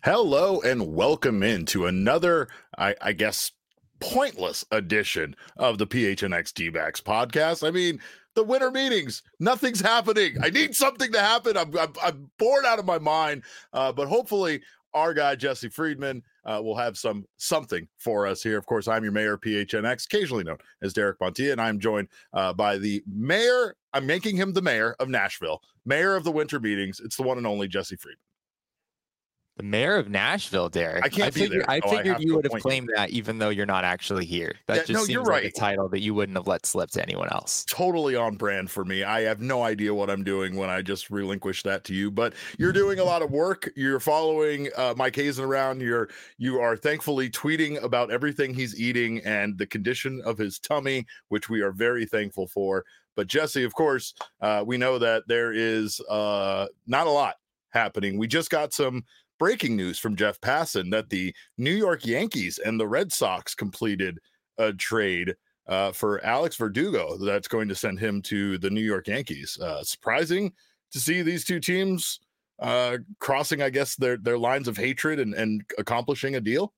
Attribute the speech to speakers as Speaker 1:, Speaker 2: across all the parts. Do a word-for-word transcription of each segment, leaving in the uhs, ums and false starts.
Speaker 1: Hello and welcome into another, I, I guess, pointless edition of the P H N X D-backs podcast. I mean, the winter meetings, nothing's happening. I need something to happen. I'm, I'm, I'm bored out of my mind, uh, but hopefully our guy, Jesse Friedman, uh, will have some something for us here. Of course, I'm your mayor of P H N X, occasionally known as Derek Montilla, and I'm joined uh, by the mayor. I'm making him the mayor of Nashville, mayor of the winter meetings. It's the one and only Jesse Friedman.
Speaker 2: The mayor of Nashville, Derek.
Speaker 1: I can't
Speaker 2: I
Speaker 1: be
Speaker 2: figured,
Speaker 1: there.
Speaker 2: I
Speaker 1: so
Speaker 2: figured
Speaker 1: I
Speaker 2: you would have
Speaker 1: you.
Speaker 2: claimed that even though you're not actually here. That
Speaker 1: Yeah,
Speaker 2: just
Speaker 1: no,
Speaker 2: seems
Speaker 1: you're
Speaker 2: like
Speaker 1: right.
Speaker 2: a title that you wouldn't have let slip to anyone else.
Speaker 1: Totally on brand for me. I have no idea what I'm doing when I just relinquish that to you, but you're doing a lot of work. You're following uh, Mike Hazen around. You're you are thankfully tweeting about everything he's eating and the condition of his tummy, which we are very thankful for. But Jesse, of course, uh, we know that there is uh, not a lot happening. We just got some breaking news from Jeff Passan that the New York Yankees and the Red Sox completed a trade uh, for Alex Verdugo that's going to send him to the New York Yankees. Uh, surprising to see these two teams uh, crossing, I guess, their their lines of hatred and, and accomplishing a deal.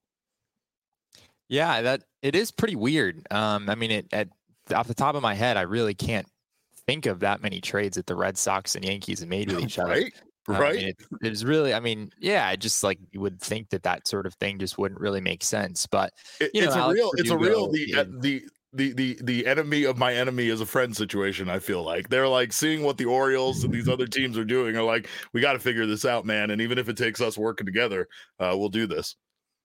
Speaker 2: Yeah, that it is pretty weird. Um, I mean, it, at off the top of my head, I really can't think of that many trades that the Red Sox and Yankees have made with each other.
Speaker 1: Right.
Speaker 2: Uh,
Speaker 1: Right.
Speaker 2: I mean, it, it's really, I mean, yeah, I just like you would think that that sort of thing just wouldn't really make sense. But
Speaker 1: It,
Speaker 2: you
Speaker 1: it's
Speaker 2: know,
Speaker 1: a
Speaker 2: Alex
Speaker 1: real, it's a real
Speaker 2: Verdugo
Speaker 1: the uh,
Speaker 2: is-
Speaker 1: the. The, the the enemy of my enemy is a friend situation. I feel like they're like seeing what the Orioles and these other teams are doing are like, we got to figure this out, man. And even if it takes us working together, uh, we'll do this.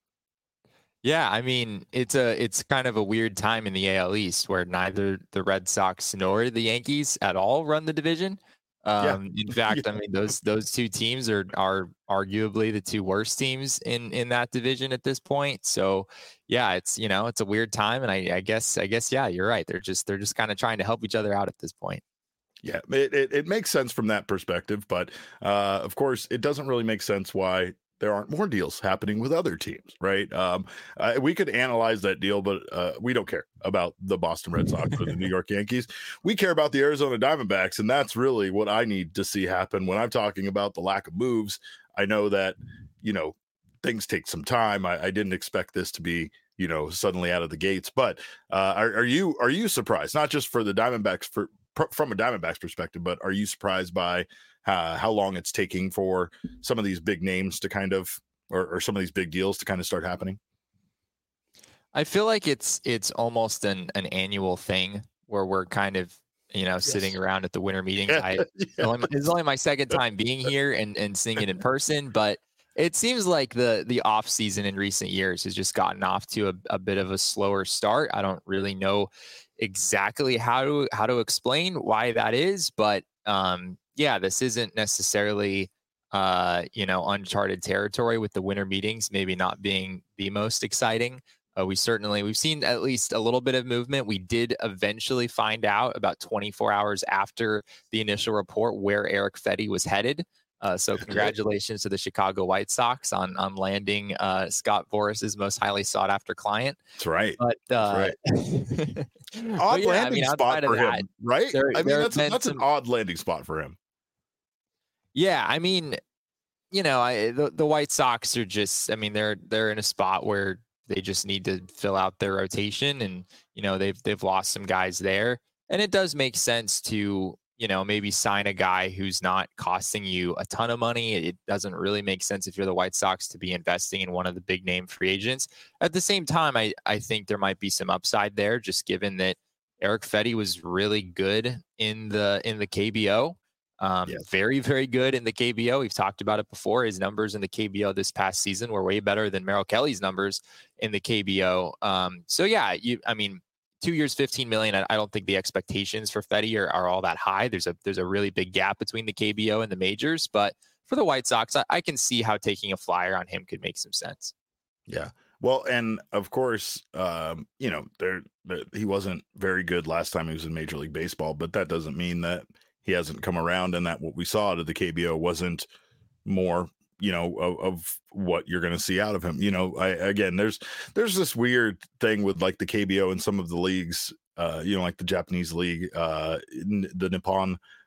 Speaker 2: Yeah, I mean, it's a it's kind of a weird time in the A L East where neither the Red Sox nor the Yankees at all run the division. Um,
Speaker 1: Yeah.
Speaker 2: In fact,
Speaker 1: Yeah.
Speaker 2: I mean those those two teams are are arguably the two worst teams in in that division at this point. So, yeah, it's you know it's a weird time, and I, I guess I guess yeah, you're right. They're just they're just kind of trying to help each other out at this point.
Speaker 1: Yeah, it, it, it makes sense from that perspective, but uh, of course, it doesn't really make sense why there aren't more deals happening with other teams, right? Um, uh, we could analyze that deal, but uh, we don't care about the Boston Red Sox or the New York Yankees. We care about the Arizona Diamondbacks, and that's really what I need to see happen when I'm talking about the lack of moves. I know that, you know, things take some time. I, I didn't expect this to be, you know, suddenly out of the gates, but uh, are, are you are you surprised? Not just for the Diamondbacks for from a Diamondbacks perspective, but are you surprised by uh, how long it's taking for some of these big names to kind of, or, or some of these big deals to kind of start happening?
Speaker 2: I feel like it's it's almost an an annual thing where we're kind of you know sitting
Speaker 1: Yes.
Speaker 2: around at the winter meetings.
Speaker 1: Yeah.
Speaker 2: I
Speaker 1: Yeah.
Speaker 2: only, this is only my second time being here and and seeing it in person, but it seems like the the off season in recent years has just gotten off to a, a bit of a slower start. I don't really know exactly how to how to explain why that is, but um, yeah, this isn't necessarily uh, you know uncharted territory with the winter meetings maybe not being the most exciting. Uh, we certainly we've seen at least a little bit of movement. We did eventually find out about twenty-four hours after the initial report where Erick Fedde was headed. Uh, so congratulations to the Chicago White Sox on on landing uh, Scott Boris's most highly sought after client.
Speaker 1: That's right.
Speaker 2: But uh,
Speaker 1: Odd
Speaker 2: but yeah,
Speaker 1: landing
Speaker 2: I mean,
Speaker 1: spot
Speaker 2: outside of
Speaker 1: for
Speaker 2: that,
Speaker 1: him, right?
Speaker 2: there-
Speaker 1: I mean,
Speaker 2: there
Speaker 1: that's
Speaker 2: have
Speaker 1: a,
Speaker 2: been
Speaker 1: that's an
Speaker 2: some-
Speaker 1: odd landing spot for him.
Speaker 2: Yeah, I mean, you know, I, the the White Sox are just, I mean, they're they're in a spot where they just need to fill out their rotation, and you know, they've they've lost some guys there, and it does make sense to you know maybe sign a guy who's not costing you a ton of money. It doesn't really make sense if you're the White Sox to be investing in one of the big name free agents. At the same time, I I think there might be some upside there, just given that Erick Fedde was really good in the in the K B O. Um,
Speaker 1: Yes.
Speaker 2: Very, very good in the K B O. We've talked about it before. His numbers in the K B O this past season were way better than Merrill Kelly's numbers in the K B O. Um, so yeah, you, I mean, two years, fifteen million. I, I don't think the expectations for Fedde are, are all that high. There's a there's a really big gap between the K B O and the majors. But for the White Sox, I, I can see how taking a flyer on him could make some sense.
Speaker 1: Yeah. Well, and of course, um, you know, there, there he wasn't very good last time he was in Major League Baseball, but that doesn't mean that he hasn't come around and that what we saw out of the K B O wasn't more, you know, of, of what you're going to see out of him. You know, I, again, there's there's this weird thing with like the K B O and some of the leagues, uh, you know, like the Japanese league, uh, the Nippon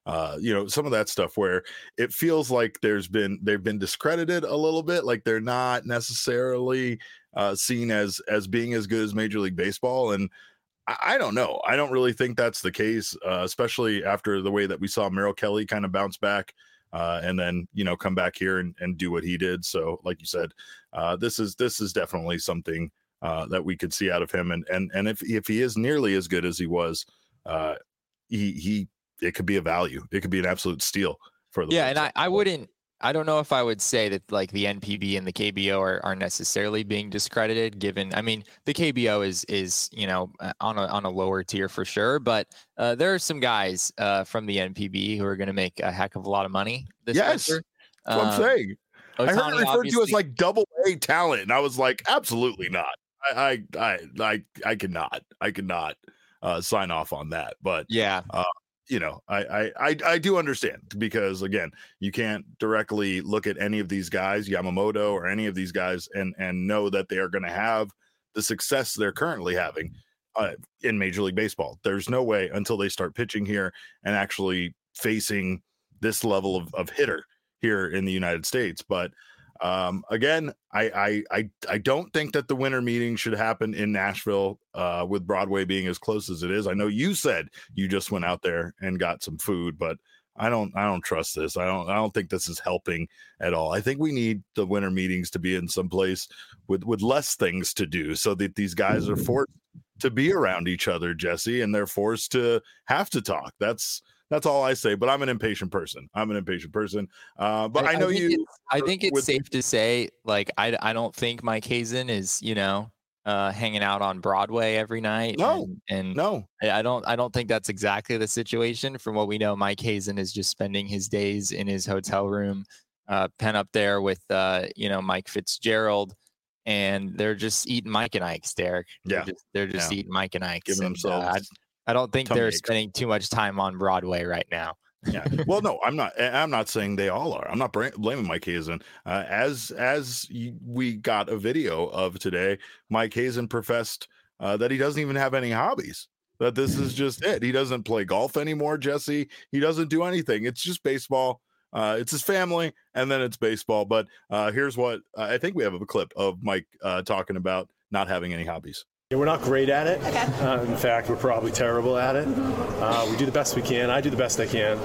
Speaker 1: Uh, you know, some of that stuff where it feels like there's been they've been discredited a little bit, like they're not necessarily uh, seen as as being as good as Major League Baseball. And I, I don't know. I don't really think that's the case, uh, especially after the way that we saw Merrill Kelly kind of bounce back. Uh, and then, you know, come back here and, and do what he did. So, like you said, uh, this is this is definitely something uh, that we could see out of him. And and and if if he is nearly as good as he was, uh, he he it could be a value. It could be an absolute steal for the
Speaker 2: yeah. And I, I wouldn't. I don't know if I would say that like the N P B and the K B O are, are necessarily being discredited, given, I mean, the K B O is, is, you know, on a, on a lower tier for sure, but uh, there are some guys uh, from the N P B who are going to make a heck of a lot of money this
Speaker 1: yes,
Speaker 2: winter.
Speaker 1: That's what I'm
Speaker 2: um,
Speaker 1: saying.
Speaker 2: Ohtani,
Speaker 1: I heard it referred to as like double A talent. And I was like, absolutely not. I, I, I, I, I cannot, I cannot uh, sign off on that, but
Speaker 2: yeah,
Speaker 1: uh, you know, I, I, I, I do understand, because again, you can't directly look at any of these guys, Yamamoto or any of these guys, and and know that they are going to have the success they're currently having uh, in Major League Baseball. There's no way until they start pitching here and actually facing this level of, of hitter here in the United States. But um, again, I, I I I don't think that the winter meeting should happen in Nashville uh, with Broadway being as close as it is. I know you said you just went out there and got some food, but I don't I don't trust this. I don't I don't think this is helping at all. I think we need the winter meetings to be in some place with with less things to do, so that these guys are forced to be around each other, Jesse, and they're forced to have to talk. That's That's all I say, but I'm an impatient person. I'm an impatient person. Uh, but I, I know
Speaker 2: I
Speaker 1: you.
Speaker 2: I think it's
Speaker 1: with,
Speaker 2: safe to say, like, I, I don't think Mike Hazen is, you know, uh, hanging out on Broadway every night.
Speaker 1: No,
Speaker 2: and, and
Speaker 1: no,
Speaker 2: I don't, I don't think that's exactly the situation. From what we know, Mike Hazen is just spending his days in his hotel room, uh, pen up there with, uh, you know, Mike Fitzgerald, and they're just eating Mike and Ike's, Derek.
Speaker 1: Yeah,
Speaker 2: they're just, they're just
Speaker 1: yeah.
Speaker 2: eating Mike and Ike's,
Speaker 1: giving
Speaker 2: and,
Speaker 1: themselves.
Speaker 2: Uh, I don't think they're
Speaker 1: aches.
Speaker 2: spending too much time on Broadway right now.
Speaker 1: Yeah. Well, no, I'm not. I'm not saying they all are. I'm not blaming Mike Hazen. Uh, as as we got a video of today, Mike Hazen professed uh, that he doesn't even have any hobbies. That this is just it. He doesn't play golf anymore, Jesse. He doesn't do anything. It's just baseball. Uh, it's his family, and then it's baseball. But uh, here's what uh, I think we have a clip of Mike uh, talking about not having any hobbies.
Speaker 3: We're not great at it.
Speaker 4: Okay.
Speaker 3: Uh, in fact, we're probably terrible at it. Mm-hmm. Uh, we do the best we can. I do the best I can.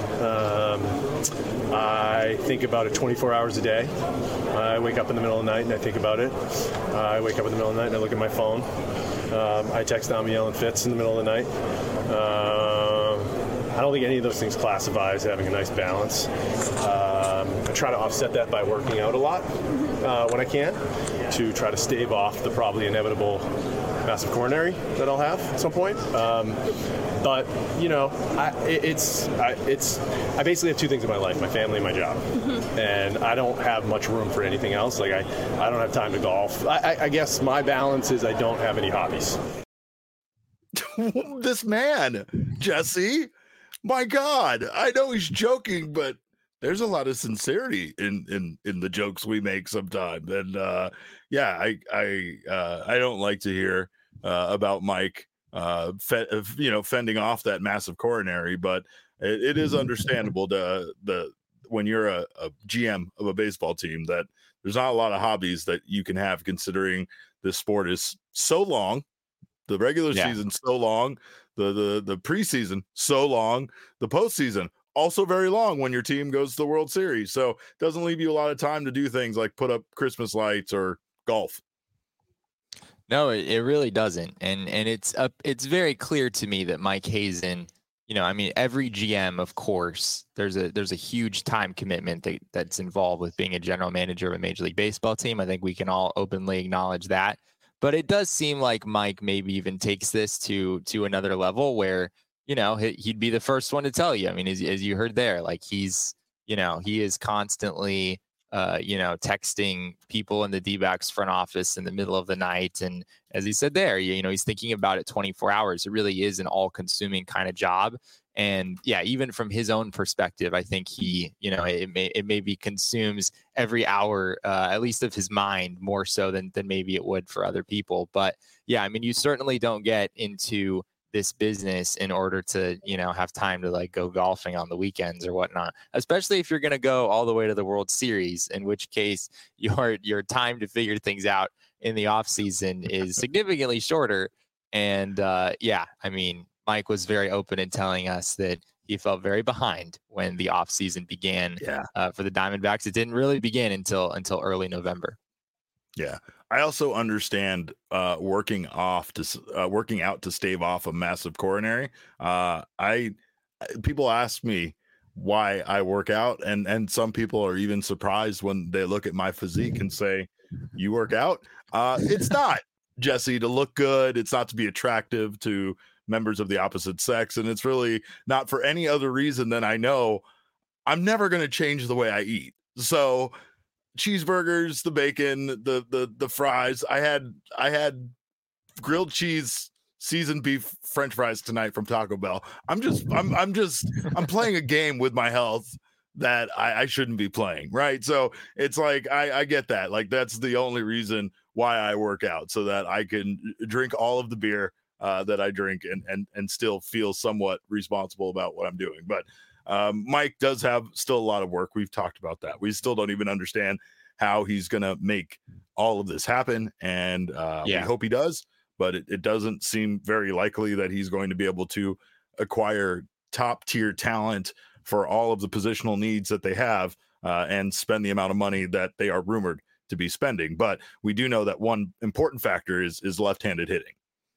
Speaker 3: Um, I think about it twenty-four hours a day. I wake up in the middle of the night and I think about it. Uh, I wake up in the middle of the night and I look at my phone. Um, I text Amiel and Fitz in the middle of the night. Um, I don't think any of those things classify as having a nice balance. Um, I try to offset that by working out a lot uh, when I can, to try to stave off the probably inevitable massive coronary that I'll have at some point. Um, but you know, I, it, it's I, it's I basically have two things in my life: my family and my job. Mm-hmm. And I don't have much room for anything else. Like I, I don't have time to golf. I, I, I guess my balance is I don't have any hobbies.
Speaker 1: This man, Jesse. My God, I know he's joking, but there's a lot of sincerity in in in the jokes we make sometimes. And uh, yeah, I I uh, I don't like to hear uh, about Mike, uh, fe- you know, fending off that massive coronary, but it, it is understandable to the when you're a, a G M of a baseball team that there's not a lot of hobbies that you can have, considering this sport is so long, the regular yeah. season so long. The, the the preseason so long, the postseason also very long when your team goes to the World Series. So it doesn't leave you a lot of time to do things like put up Christmas lights or golf.
Speaker 2: No, it, it really doesn't. And and it's up it's very clear to me that Mike Hazen, you know, I mean, every G M, of course, there's a there's a huge time commitment that, that's involved with being a general manager of a Major League Baseball team. I think we can all openly acknowledge that. But it does seem like Mike maybe even takes this to to another level where, you know, he'd be the first one to tell you. I mean, as, as you heard there, like he's, you know, he is constantly, uh, you know, texting people in the D-backs front office in the middle of the night. And as he said there, you, you know, he's thinking about it twenty-four hours. It really is an all-consuming kind of job. And yeah, even from his own perspective, I think he, you know, it may it maybe consumes every hour, uh, at least of his mind, more so than than maybe it would for other people. But yeah, I mean, you certainly don't get into this business in order to, you know, have time to like go golfing on the weekends or whatnot, especially if you're going to go all the way to the World Series, in which case your, your time to figure things out in the off season is significantly shorter. And uh, yeah, I mean, Mike was very open in telling us that he felt very behind when the off season began
Speaker 1: yeah.
Speaker 2: uh, for the Diamondbacks. It didn't really begin until, until early November.
Speaker 1: Yeah. I also understand uh, working off to uh, working out to stave off a massive coronary. Uh, I people ask me why I work out, and and some people are even surprised when they look at my physique and say, "You work out?" Uh, it's not, Jesse, to look good. It's not to be attractive to members of the opposite sex, and it's really not for any other reason than I know I'm never going to change the way I eat. So cheeseburgers, the bacon, the the the fries. I had I had grilled cheese, seasoned beef, French fries tonight from Taco Bell. I'm just I'm I'm just I'm playing a game with my health that I, I shouldn't be playing, right? So it's like I, I get that. Like that's the only reason why I work out, so that I can drink all of the beer uh, that I drink and and and still feel somewhat responsible about what I'm doing. But Um, Mike does have still a lot of work. We've talked about that. We still don't even understand how he's going to make all of this happen. And uh,
Speaker 2: yeah.
Speaker 1: we hope he does, but it, it doesn't seem very likely that he's going to be able to acquire top tier talent for all of the positional needs that they have uh, and spend the amount of money that they are rumored to be spending. But we do know that one important factor is, is left-handed hitting.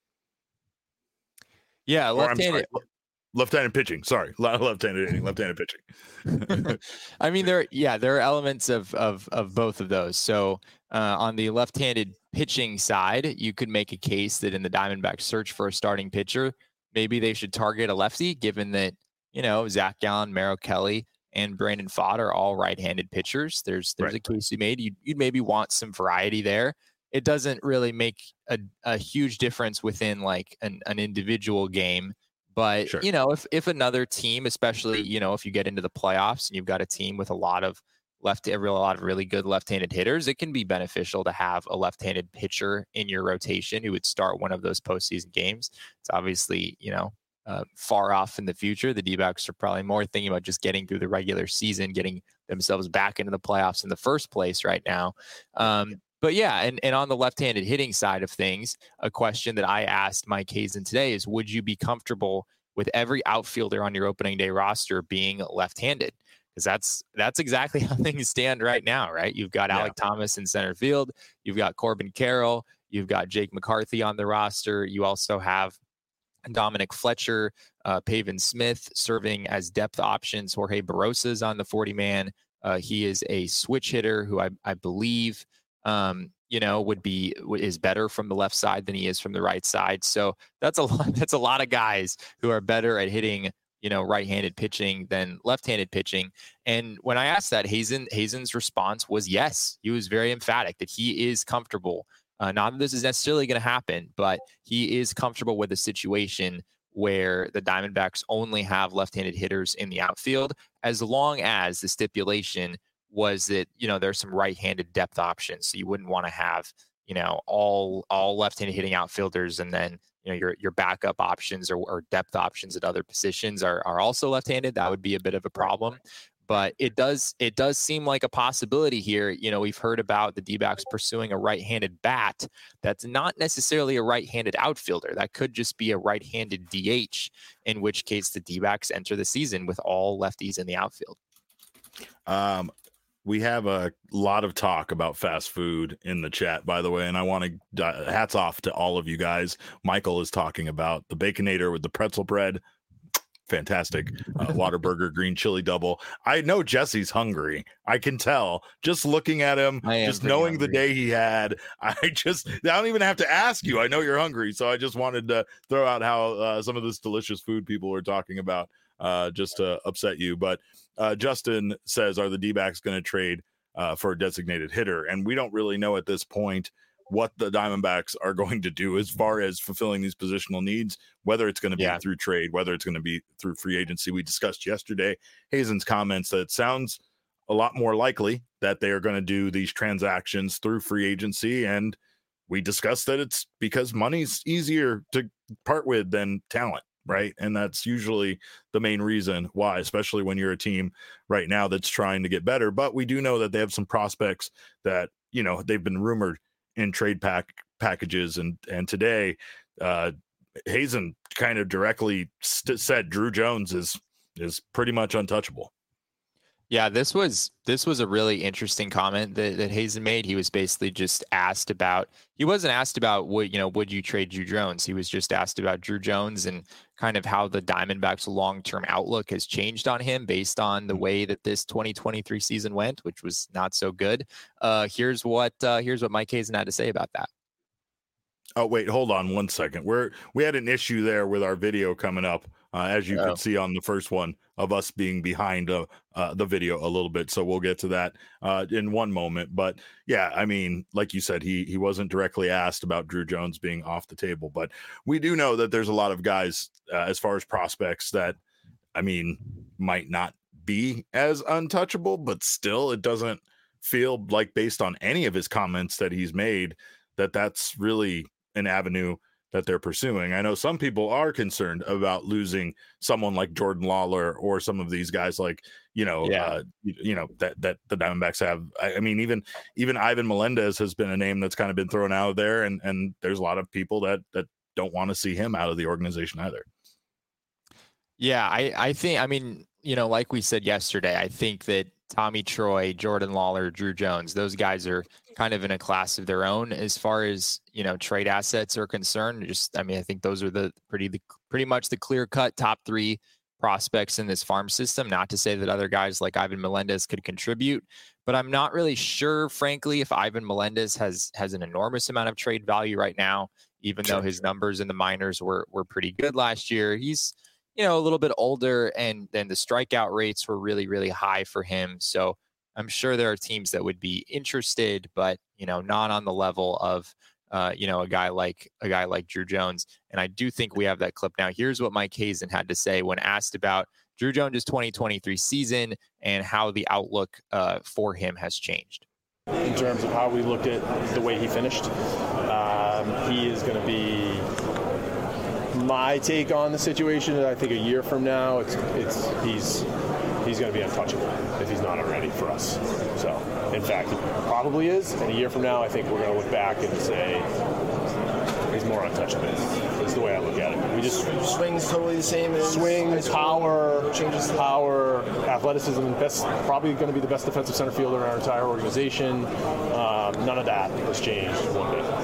Speaker 2: Yeah. Left-handed.
Speaker 1: Left-handed pitching. Sorry, left-handed hitting, left-handed pitching.
Speaker 2: I mean, there, yeah, there are elements of of of both of those. So uh, on the left-handed pitching side, you could make a case that in the Diamondbacks search for a starting pitcher, maybe they should target a lefty, given that, you know, Zach Gallen, Merrill Kelly, and Brandon Pfaadt are all right-handed pitchers. There's there's right. a case you made. You'd, you'd maybe want some variety there. It doesn't really make a, a huge difference within like an, an individual game. But, sure. you know, if, if another team, especially, you know, if you get into the playoffs and you've got a team with a lot of left, a real, a lot of really good left-handed hitters, it can be beneficial to have a left-handed pitcher in your rotation who would start one of those postseason games. It's obviously, you know, uh, far off in the future. The D-backs are probably more thinking about just getting through the regular season, getting themselves back into the playoffs in the first place right now. Um, But yeah, and, and on the left-handed hitting side of things, a question that I asked Mike Hazen today is, would you be comfortable with every outfielder on your opening day roster being left-handed? Because that's that's exactly how things stand right now, right? You've got yeah. Alec Thomas in center field. You've got Corbin Carroll. You've got Jake McCarthy on the roster. You also have Dominic Fletcher, uh, Pavin Smith serving as depth options. Jorge Barrosa is on the forty-man. Uh, he is a switch hitter who I, I believe – Um, you know, would be is better from the left side than he is from the right side. So that's a lot. That's a lot of guys who are better at hitting, you know, right-handed pitching than left-handed pitching. And when I asked that, Hazen Hazen's response was yes. He was very emphatic that he is comfortable. Uh, not that this is necessarily going to happen, but he is comfortable with a situation where the Diamondbacks only have left-handed hitters in the outfield, as long as the stipulation was that, you know, there's some right-handed depth options. So you wouldn't want to have, you know, all all left-handed hitting outfielders, and then, you know, your your backup options or, or depth options at other positions are are also left-handed. That would be a bit of a problem. But it does it does seem like a possibility here. You know, we've heard about the D-backs pursuing a right-handed bat. That's not necessarily a right-handed outfielder. That could just be a right-handed D H, in which case the D-backs enter the season with all lefties in the outfield.
Speaker 1: Um. We have a lot of talk about fast food in the chat, by the way, and I want to uh, hats off to all of you guys. Michael is talking about the Baconator with the pretzel bread. Fantastic. Uh, Whataburger green chili double. I know Jesse's hungry. I can tell just looking at him, just knowing hungry. The day he had. I just, I don't even have to ask you. I know you're hungry. So I just wanted to throw out how uh, some of this delicious food people were talking about. Uh, just to upset you. But uh, Justin says, are the D-backs going to trade uh, for a designated hitter? And we don't really know at this point what the Diamondbacks are going to do as far as fulfilling these positional needs, whether it's going to be yeah. through trade, whether it's going to be through free agency. We discussed yesterday Hazen's comments that it sounds a lot more likely that they are going to do these transactions through free agency. And we discussed that it's because money's easier to part with than talent, right? And that's usually the main reason why, especially when you're a team right now that's trying to get better. But we do know that they have some prospects that, you know, they've been rumored in trade pack packages. And, and today, uh, Hazen kind of directly st- said Drew Jones is, is pretty much untouchable.
Speaker 2: Yeah, this was this was a really interesting comment that, that Hazen made. He was basically just asked about, he wasn't asked about would, you know, would you trade Drew Jones? He was just asked about Drew Jones and kind of how the Diamondbacks' long-term outlook has changed on him based on the way that this twenty twenty-three season went, which was not so good. Uh, here's what uh, here's what Mike Hazen had to say about that.
Speaker 1: Oh, wait, hold on one second. We're we had an issue there with our video coming up, uh, as you oh. could see on the first one of us being behind uh, uh, the video a little bit. So we'll get to that uh, in one moment. But yeah, I mean, like you said, he he wasn't directly asked about Drew Jones being off the table, but we do know that there's a lot of guys uh, as far as prospects that, I mean, might not be as untouchable, but still, it doesn't feel like, based on any of his comments that he's made, that that's really an avenue that they're pursuing. I know some people are concerned about losing someone like Jordan Lawler or some of these guys, like, you know, yeah. uh, you, you know, that, that the Diamondbacks have. I, I mean, even, even Ivan Melendez has been a name that's kind of been thrown out there, and, and there's a lot of people that, that don't want to see him out of the organization either.
Speaker 2: Yeah. I, I think, I mean, you know, like we said yesterday, I think that Tommy Troy, Jordan Lawler, Drew Jones, those guys are kind of in a class of their own as far as, you know, trade assets are concerned. Just, I mean, I think those are the pretty, the, pretty much the clear cut top three prospects in this farm system. Not to say that other guys like Ivan Melendez could contribute, but I'm not really sure, frankly, if Ivan Melendez has, has an enormous amount of trade value right now, even though his numbers in the minors were, were pretty good last year. He's, you know, a little bit older, and then the strikeout rates were really, really high for him. So I'm sure there are teams that would be interested, but, you know, not on the level of, uh, you know, a guy like a guy like Drew Jones. And I do think we have that clip now. Here's what Mike Hazen had to say when asked about Drew Jones' twenty twenty-three season and how the outlook uh, for him has changed.
Speaker 3: In terms of how we looked at the way he finished, um, he is going to be my take on the situation. I think a year from now, it's it's he's he's going to be untouchable if he's not already for us. So, in fact, he probably is. And a year from now, I think we're going to look back and say he's more untouchable. That's the way I look at it. We just
Speaker 4: swings totally the same. As
Speaker 3: swing, power, changes power, athleticism. Best, probably going to be the best defensive center fielder in our entire organization. Um, none of that has changed one bit.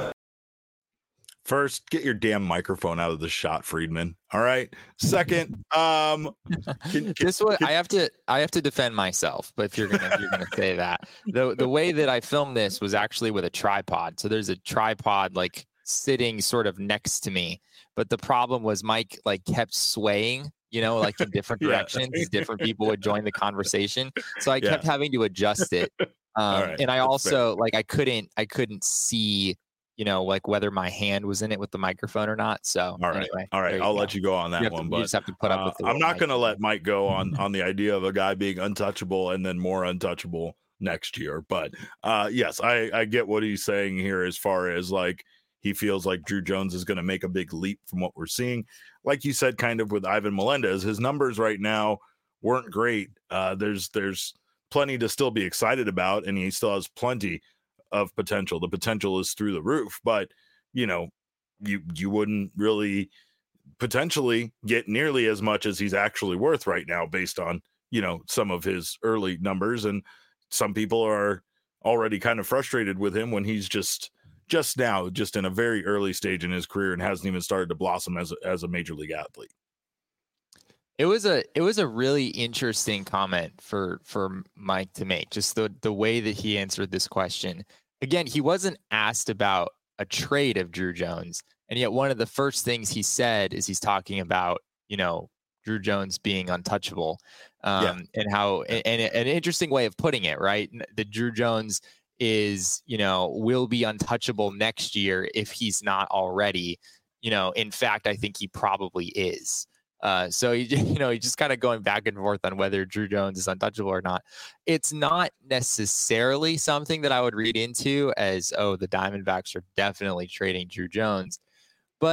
Speaker 1: First, get your damn microphone out of the shot, Friedman. All right. Second, um,
Speaker 2: can, can, this way I have to I have to defend myself. But if you're gonna if you're gonna say that, the the way that I filmed this was actually with a tripod. So there's a tripod like sitting sort of next to me. But the problem was Mike like kept swaying, you know, like in different directions. yeah. Different people would join the conversation, so I yeah. kept having to adjust it. Um, right. And I That's also fair. like I couldn't I couldn't see, you know, like whether my hand was in it with the microphone or not. So
Speaker 1: all right,
Speaker 2: anyway,
Speaker 1: all right, I'll let you go on that one.
Speaker 2: To,
Speaker 1: but
Speaker 2: you just have to put up
Speaker 1: uh,
Speaker 2: with the
Speaker 1: I'm not going to let Mike go on on the idea of a guy being untouchable and then more untouchable next year. But uh, yes, I I get what he's saying here as far as like he feels like Drew Jones is going to make a big leap from what we're seeing. Like you said, kind of with Ivan Melendez, his numbers right now weren't great. Uh, there's there's plenty to still be excited about, and he still has plenty of potential. The potential is through the roof, but you know, you you wouldn't really potentially get nearly as much as he's actually worth right now based on, you know, some of his early numbers. And some people are already kind of frustrated with him when he's just just now just in a very early stage in his career and hasn't even started to blossom as a, as a major league athlete.
Speaker 2: It was a it was a really interesting comment for for Mike to make, just the the way that he answered this question. Again, he wasn't asked about a trade of Drew Jones, and yet one of the first things he said is he's talking about, you know, Drew Jones being untouchable, um, yeah. and how and, and an interesting way of putting it, right? That Drew Jones is, you know, will be untouchable next year if he's not already. You know, in fact, I think he probably is. Uh, so, you, you know, he's just kind of going back and forth on whether Drew Jones is untouchable or not. It's not necessarily something that I would read into as, oh, the Diamondbacks are definitely trading Drew Jones. But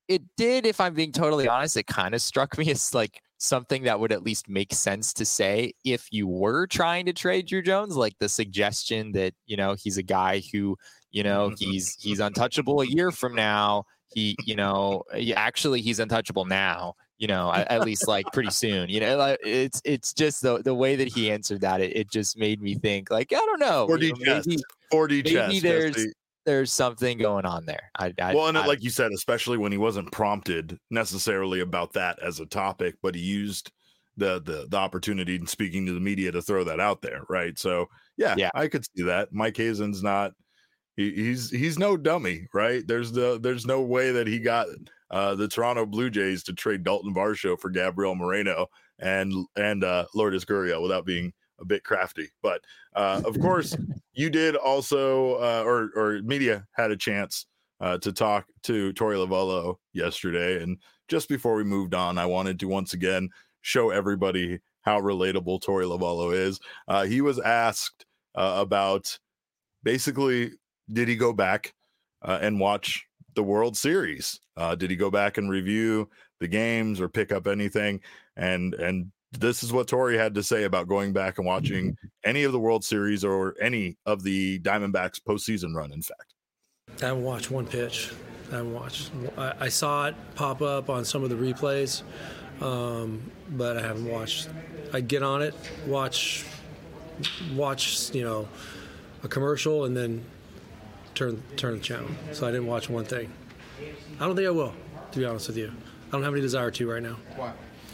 Speaker 2: it did, if I'm being totally honest, it kind of struck me as like something that would at least make sense to say if you were trying to trade Drew Jones, like the suggestion that, you know, he's a guy who, you know, he's he's untouchable a year from now. He, you know, actually he's untouchable now, you know, at, at least like pretty soon, you know, like it's it's just the the way that he answered that, it, it just made me think like, I don't know,
Speaker 1: four D
Speaker 2: you know,
Speaker 1: chess,
Speaker 2: maybe,
Speaker 1: four D
Speaker 2: maybe
Speaker 1: chess.
Speaker 2: there's
Speaker 1: Jesse.
Speaker 2: there's something going on there. I, I
Speaker 1: well, and
Speaker 2: I,
Speaker 1: like you said, especially when he wasn't prompted necessarily about that as a topic, but he used the the the opportunity in speaking to the media to throw that out there, right? So yeah,
Speaker 2: yeah,
Speaker 1: I could see that. Mike Hazen's not he, he's he's no dummy, right? There's the there's no way that he got uh, the Toronto Blue Jays to trade Dalton Varsho for Gabriel Moreno and and uh, Lourdes Gurriel without being a bit crafty. But uh, of course, you did also, uh, or or media had a chance uh, to talk to Torey Lovullo yesterday, and just before we moved on, I wanted to once again show everybody how relatable Torey Lovullo is. Uh, he was asked uh, about basically, did he go back uh, and watch the World Series? Uh, did he go back and review the games or pick up anything? And and this is what Torey had to say about going back and watching any of the World Series or any of the Diamondbacks postseason run, in fact.
Speaker 5: I haven't watched one pitch. I haven't watched. I, I saw it pop up on some of the replays, um, but I haven't watched. I get on it, watch, watch, you know, a commercial, and then turn turn the channel. So I didn't watch one thing. I don't think I will, to be honest with you. I don't have any desire to right now.
Speaker 6: Why?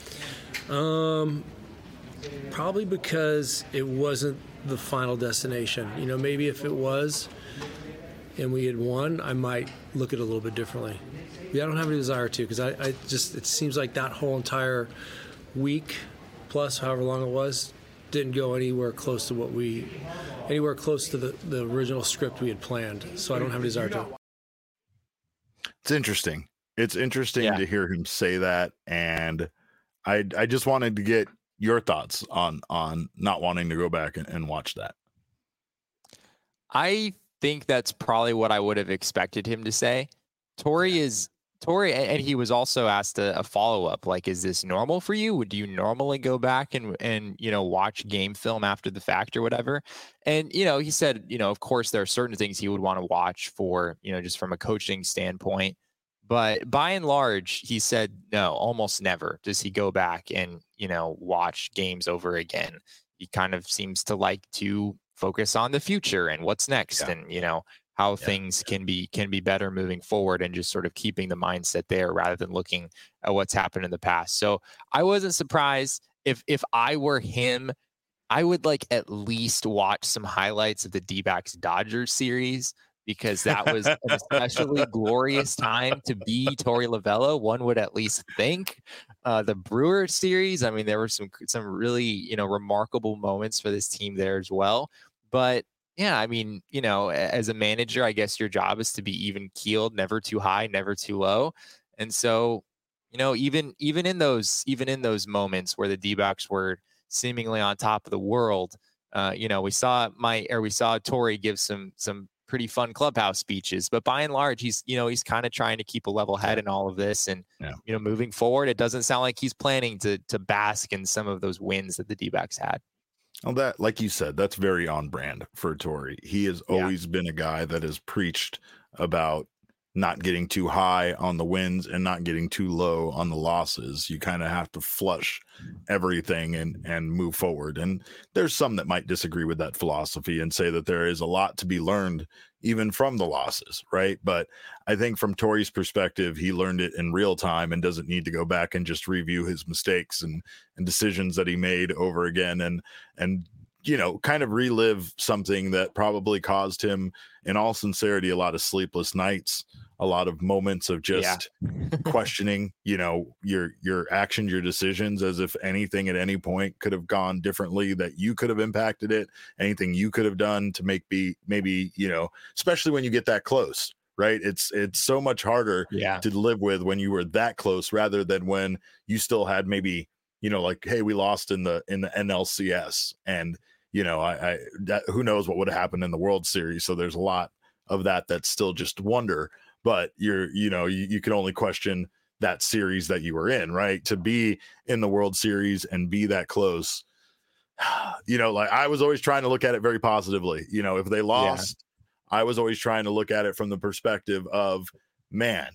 Speaker 5: Um, probably because it wasn't the final destination. You know, maybe if it was and we had won, I might look at it a little bit differently. Yeah, I don't have any desire to, because I, I just, it seems like that whole entire week plus however long it was didn't go anywhere close to what we, anywhere close to the, the original script we had planned. So I don't have any desire to.
Speaker 1: It's interesting. It's interesting
Speaker 2: Yeah.
Speaker 1: to hear him say that, and I I just wanted to get your thoughts on on not wanting to go back and, and watch that.
Speaker 2: I think that's probably what I would have expected him to say. Torey is Torey, and he was also asked a, a follow up, like, is this normal for you? Would you normally go back and and you know watch game film after the fact or whatever? And you know, he said, you know, of course there are certain things he would want to watch for, you know, just from a coaching standpoint. But by and large, he said no, almost never does he go back and, you know, watch games over again. He kind of seems to like to focus on the future and what's next,
Speaker 1: Yeah.
Speaker 2: and, you know, how
Speaker 1: Yeah.
Speaker 2: things can be can be better moving forward, and just sort of keeping the mindset there rather than looking at what's happened in the past. So I wasn't surprised. If if I were him, I would like at least watch some highlights of the D-backs Dodgers series, because that was an especially glorious time to be Torey Lovullo, one would at least think. Uh, the Brewer series, I mean, there were some some really, you know, remarkable moments for this team there as well. But yeah, I mean, you know, a- as a manager, I guess your job is to be even keeled, never too high, never too low. And so, you know, even even in those even in those moments where the D-backs were seemingly on top of the world, uh, you know, we saw my or we saw Torey give some some pretty fun clubhouse speeches, but by and large, he's, you know, he's kind of trying to keep a level head in all of this. And,
Speaker 1: Yeah.
Speaker 2: you know, moving forward, it doesn't sound like he's planning to, to bask in some of those wins that the D-backs had.
Speaker 1: Well, that, like you said, that's very on brand for Torey. He has
Speaker 2: Yeah.
Speaker 1: always been a guy that has preached about not getting too high on the wins and not getting too low on the losses. You kind of have to flush everything and and move forward. And there's some that might disagree with that philosophy and say that there is a lot to be learned even from the losses, right? But I think from Torey's perspective, he learned it in real time and doesn't need to go back and just review his mistakes and and decisions that he made over again and and you know, kind of relive something that probably caused him, in all sincerity, a lot of sleepless nights, a lot of moments of just questioning, you know, your your actions, your decisions, as if anything at any point could have gone differently, that you could have impacted it, anything you could have done to make be maybe, you know, especially when you get that close, right? It's it's so much harder
Speaker 2: Yeah.
Speaker 1: to live with when you were that close rather than when you still had maybe, you know, like, hey, we lost in the in the N L C S, and you know, I, I that, who knows what would have happened in the World Series. So there's a lot of that that's still just wonder. but you're, you know, you, you can only question that series that you were in, right? To be in the World Series and be that close, you know, like I was always trying to look at it very positively. You know, if they lost, yeah. I was always trying to look at it from the perspective of, man,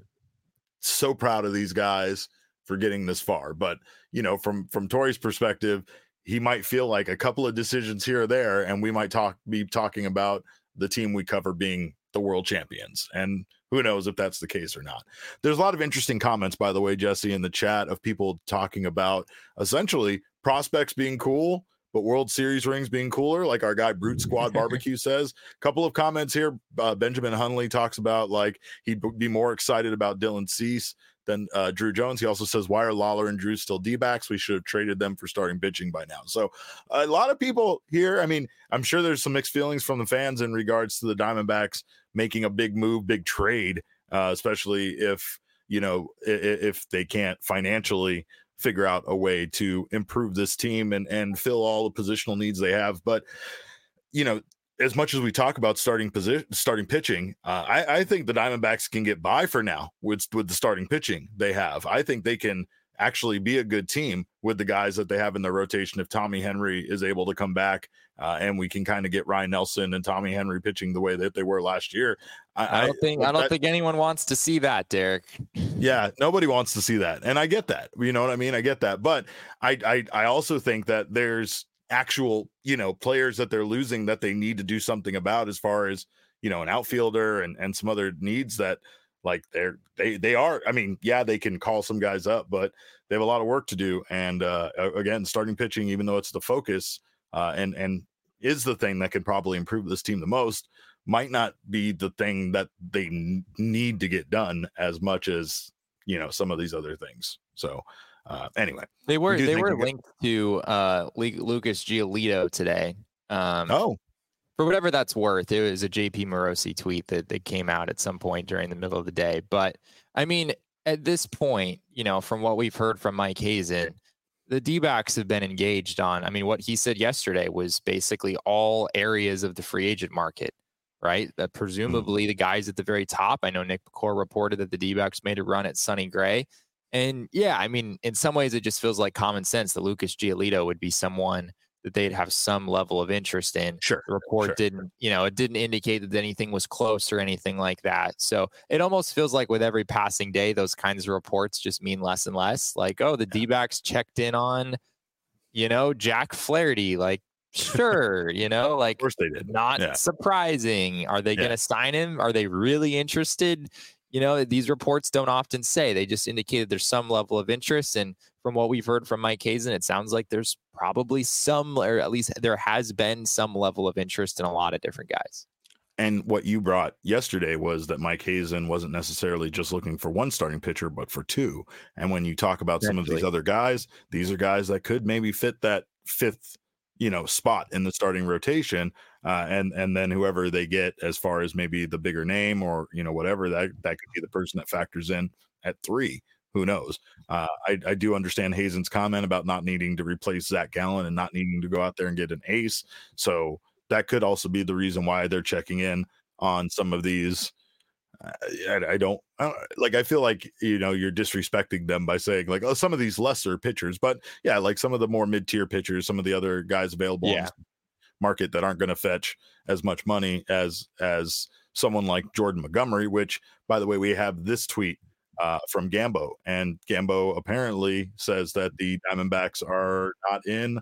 Speaker 1: so proud of these guys for getting this far. But, you know, from, from Torey's perspective, he might feel like a couple of decisions here or there, and we might talk, be talking about the team we cover being the world champions. And who knows if that's the case or not. There's a lot of interesting comments, by the way, Jesse, in the chat of people talking about essentially prospects being cool, but World Series rings being cooler, like our guy Brute Squad Barbecue says. A couple of comments here. Uh, Benjamin Hunley talks about like he'd be more excited about Dylan Cease than uh, Drew Jones. He also says, why are Lawler and Drew still D-backs? We should have traded them for starting pitching by now. So a lot of people here, I mean, I'm sure there's some mixed feelings from the fans in regards to the Diamondbacks making a big move, big trade, uh, especially if, you know, if, if they can't financially figure out a way to improve this team and, and fill all the positional needs they have. But, you know, as much as we talk about starting position, starting pitching, uh, I, I think the Diamondbacks can get by for now with, with the starting pitching they have. I think they can actually be a good team with the guys that they have in their rotation. If Tommy Henry is able to come back uh, and we can kind of get Ryan Nelson and Tommy Henry pitching the way that they were last year. I,
Speaker 2: I don't think, I, I don't
Speaker 1: that,
Speaker 2: think anyone wants to see that, Derek.
Speaker 1: Yeah, nobody wants to see that. And I get that, you know what I mean? I get that. But I, I, I also think that there's actual, you know, players that they're losing that they need to do something about as far as, you know, an outfielder and, and some other needs that like they're, they, they are, I mean, yeah, they can call some guys up, but they have a lot of work to do. And uh, again, starting pitching, even though it's the focus uh, and, and is the thing that can probably improve this team the most, might not be the thing that they n- need to get done as much as, you know, some of these other things. So uh, anyway,
Speaker 2: they were,
Speaker 1: we
Speaker 2: they were
Speaker 1: got-
Speaker 2: linked to uh, Lucas Giolito today. Um,
Speaker 1: oh,
Speaker 2: For whatever that's worth, it was a J P Morosi tweet that, that came out at some point during the middle of the day. But I mean, at this point, you know, from what we've heard from Mike Hazen, the D-backs have been engaged on. I mean, what he said yesterday was basically all areas of the free agent market, right? That presumably mm-hmm. the guys at the very top. I know Nick McCore reported that the D-backs made a run at Sonny Gray. And yeah, I mean, in some ways, it just feels like common sense that Lucas Giolito would be someone that they'd have some level of interest in.
Speaker 1: Sure.
Speaker 2: The report
Speaker 1: sure.
Speaker 2: didn't, you know, it didn't indicate that anything was close or anything like that. So it almost feels like with every passing day, those kinds of reports just mean less and less. Like, oh, the yeah. D-backs checked in on, you know, Jack Flaherty. Like, sure, you know, like,
Speaker 1: of course they did.
Speaker 2: Not yeah. surprising. Are they yeah. going to sign him? Are they really interested? You know, these reports don't often say. They just indicated there's some level of interest. And from what we've heard from Mike Hazen, it sounds like there's probably some, or at least there has been some level of interest in a lot of different guys.
Speaker 1: And what you brought yesterday was that Mike Hazen wasn't necessarily just looking for one starting pitcher, but for two. And when you talk about some of these other guys, these are guys that could maybe fit that fifth, you know, spot in the starting rotation. Uh, and, and then whoever they get as far as maybe the bigger name or, you know, whatever, that, that could be the person that factors in at three. Who knows? Uh, I, I do understand Hazen's comment about not needing to replace Zach Gallen and not needing to go out there and get an ace. So that could also be the reason why they're checking in on some of these. Uh, I, I, don't, I don't like, I feel like, you know, you're disrespecting them by saying like, oh, some of these lesser pitchers, but yeah, like some of the more mid-tier pitchers, some of the other guys available
Speaker 2: yeah.
Speaker 1: in the market that aren't going to fetch as much money as, as someone like Jordan Montgomery, which by the way, we have this tweet uh, from Gambo, and Gambo apparently says that the Diamondbacks are not in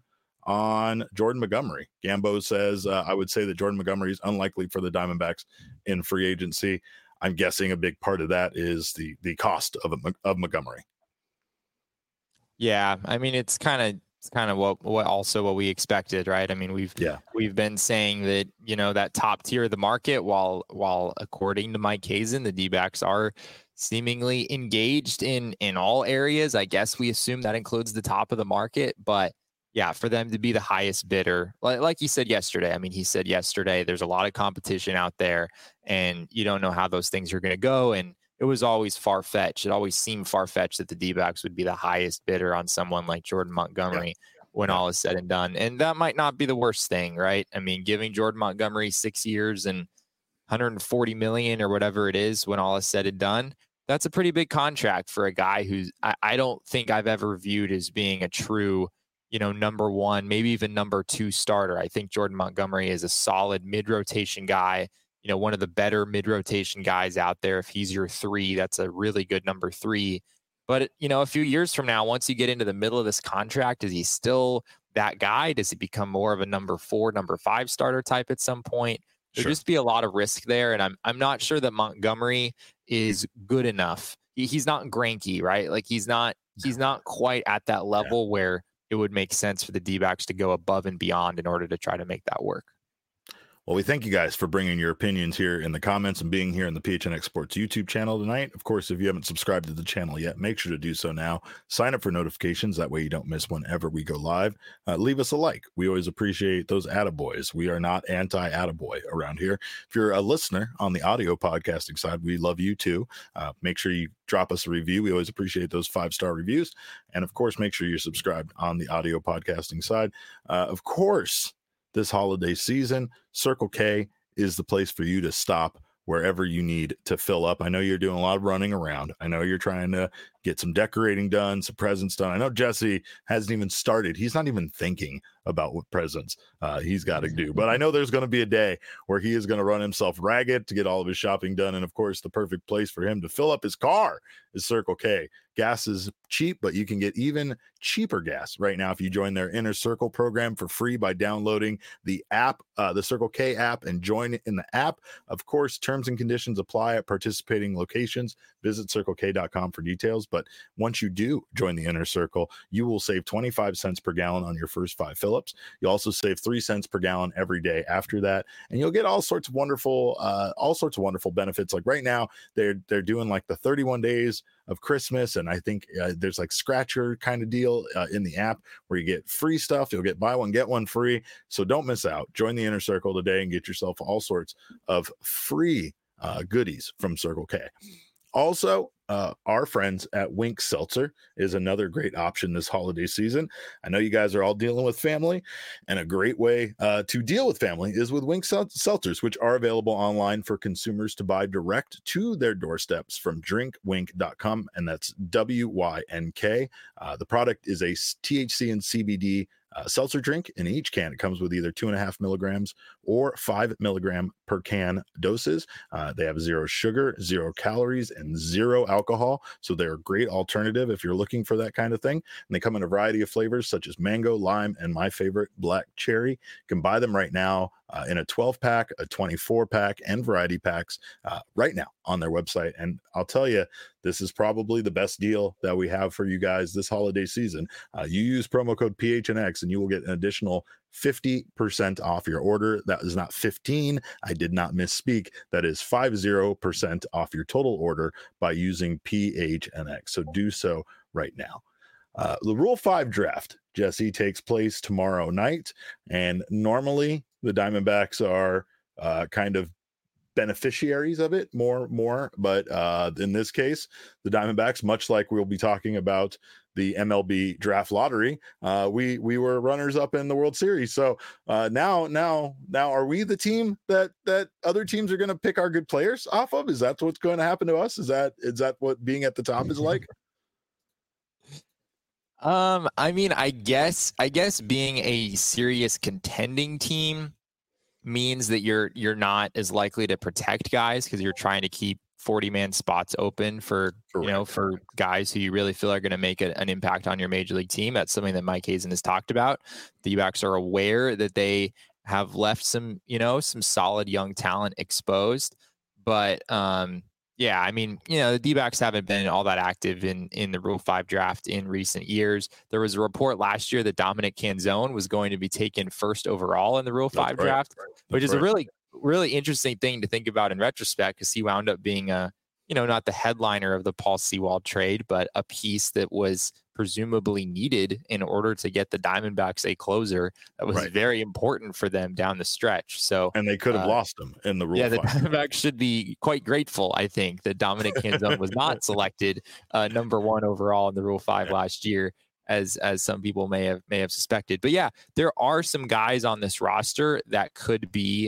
Speaker 1: on Jordan Montgomery. Gambo says, uh, I would say that Jordan Montgomery is unlikely for the Diamondbacks in free agency. I'm guessing a big part of that is the the cost of a, of Montgomery.
Speaker 2: Yeah, I mean it's kind of it's kind of what what also what we expected, right? I mean we've
Speaker 1: yeah
Speaker 2: we've been saying that you know that top tier of the market, while while according to Mike Hazen, the D-backs are seemingly engaged in in all areas. I guess we assume that includes the top of the market, but yeah, for them to be the highest bidder, like, like he said yesterday, I mean, he said yesterday, there's a lot of competition out there and you don't know how those things are going to go. And it was always far-fetched. It always seemed far-fetched that the D-backs would be the highest bidder on someone like Jordan Montgomery yeah. when yeah. all is said and done. And that might not be the worst thing, right? I mean, giving Jordan Montgomery six years and hundred forty million or whatever it is when all is said and done. That's a pretty big contract for a guy who's I, I don't think I've ever viewed as being a true, you know, number one, maybe even number two starter. I think Jordan Montgomery is a solid mid-rotation guy, you know, one of the better mid-rotation guys out there. If he's your three, that's a really good number three. But, you know, a few years from now, once you get into the middle of this contract, is he still that guy? Does he become more of a number four, number five starter type at some point? There'd sure. just be a lot of risk there. And I'm I'm not sure that Montgomery is good enough. He, he's not Greinke, right? Like he's not he's not quite at that level yeah. where it would make sense for the D-backs to go above and beyond in order to try to make that work.
Speaker 1: Well, we thank you guys for bringing your opinions here in the comments and being here in the P H N X Sports YouTube channel tonight. Of course, if you haven't subscribed to the channel yet, make sure to do so now. Sign up for notifications. That way you don't miss whenever we go live. Uh, leave us a like. We always appreciate those attaboys. We are not anti-attaboy around here. If you're a listener on the audio podcasting side, we love you too. Uh, make sure you drop us a review. We always appreciate those five-star reviews. And of course, make sure you're subscribed on the audio podcasting side. Uh, of course, this holiday season, Circle K is the place for you to stop wherever you need to fill up. I know you're doing a lot of running around. I know you're trying to get some decorating done, some presents done. I know Jesse hasn't even started. He's not even thinking about what presents uh, he's got to do. But I know there's going to be a day where he is going to run himself ragged to get all of his shopping done. And of course, the perfect place for him to fill up his car is Circle K. Gas is cheap, but you can get even cheaper gas right now if you join their Inner Circle program for free by downloading the app, uh, the Circle K app, and join in the app. Of course, terms and conditions apply at participating locations. Visit circle k dot com for details. But once you do join the Inner Circle, you will save twenty-five cents per gallon on your first five fill-ups. You'll also save three cents per gallon every day after that, and you'll get all sorts of wonderful, uh, all sorts of wonderful benefits. Like right now, they're they're doing like the thirty-one days of Christmas, and I think uh, there's like scratcher kind of deal uh, in the app where you get free stuff. You'll get buy one get one free. So don't miss out. Join the Inner Circle today and get yourself all sorts of free uh, goodies from Circle K. Also, uh, our friends at Wink Seltzer is another great option this holiday season. I know you guys are all dealing with family, and a great way uh, to deal with family is with Wink Sel- Seltzers, which are available online for consumers to buy direct to their doorsteps from drink wink dot com, and that's W Y N K. Uh, the product is a T H C and C B D Uh, seltzer drink. In each can, it comes with either two and a half milligrams or five milligram per can doses. Uh, they have zero sugar, zero calories, and zero alcohol. So they're a great alternative if you're looking for that kind of thing. And they come in a variety of flavors such as mango, lime, and my favorite, black cherry. You can buy them right now uh, in a twelve pack, a twenty-four pack, and variety packs uh, right now on their website. And I'll tell you, this is probably the best deal that we have for you guys this holiday season. Uh, you use promo code P H N X and you will get an additional fifty percent off your order. That is not fifteen. I did not misspeak. That is fifty percent off your total order by using P H N X. So do so right now. Uh, the Rule five draft, Jesse, takes place tomorrow night. And normally the Diamondbacks are uh, kind of beneficiaries of it more more but uh in this case, the Diamondbacks, much like we'll be talking about the M L B draft lottery, uh we we were runners up in the World Series. So uh now now now are we the team that that other teams are going to pick our good players off of? Is that what's going to happen to us? Is that is that what being at the top is like?
Speaker 2: um I mean, I guess I guess being a serious contending team means that you're you're not as likely to protect guys because you're trying to keep forty man spots open for Correct. you know for guys who you really feel are going to make a, an impact on your major league team. That's something that Mike Hazen has talked about. The D-backs are aware that they have left some you know some solid young talent exposed, but um yeah, I mean, you know, the D-backs haven't been all that active in, in the Rule five draft in recent years. There was a report last year that Dominic Canzone was going to be taken first overall in the Rule five
Speaker 1: right.
Speaker 2: draft,
Speaker 1: That's
Speaker 2: which is
Speaker 1: right.
Speaker 2: a really, really interesting thing to think about in retrospect, because he wound up being a, you know, not the headliner of the Paul Sewald trade, but a piece that was presumably needed in order to get the Diamondbacks a closer that was right. very important for them down the stretch. So,
Speaker 1: and they could have uh, lost him in the Rule
Speaker 2: yeah,
Speaker 1: five.
Speaker 2: The Diamondbacks should be quite grateful, I think, that Dominic Canzone was not selected uh, number one overall in the Rule five yeah. last year, as as some people may have may have suspected. But yeah, there are some guys on this roster that could be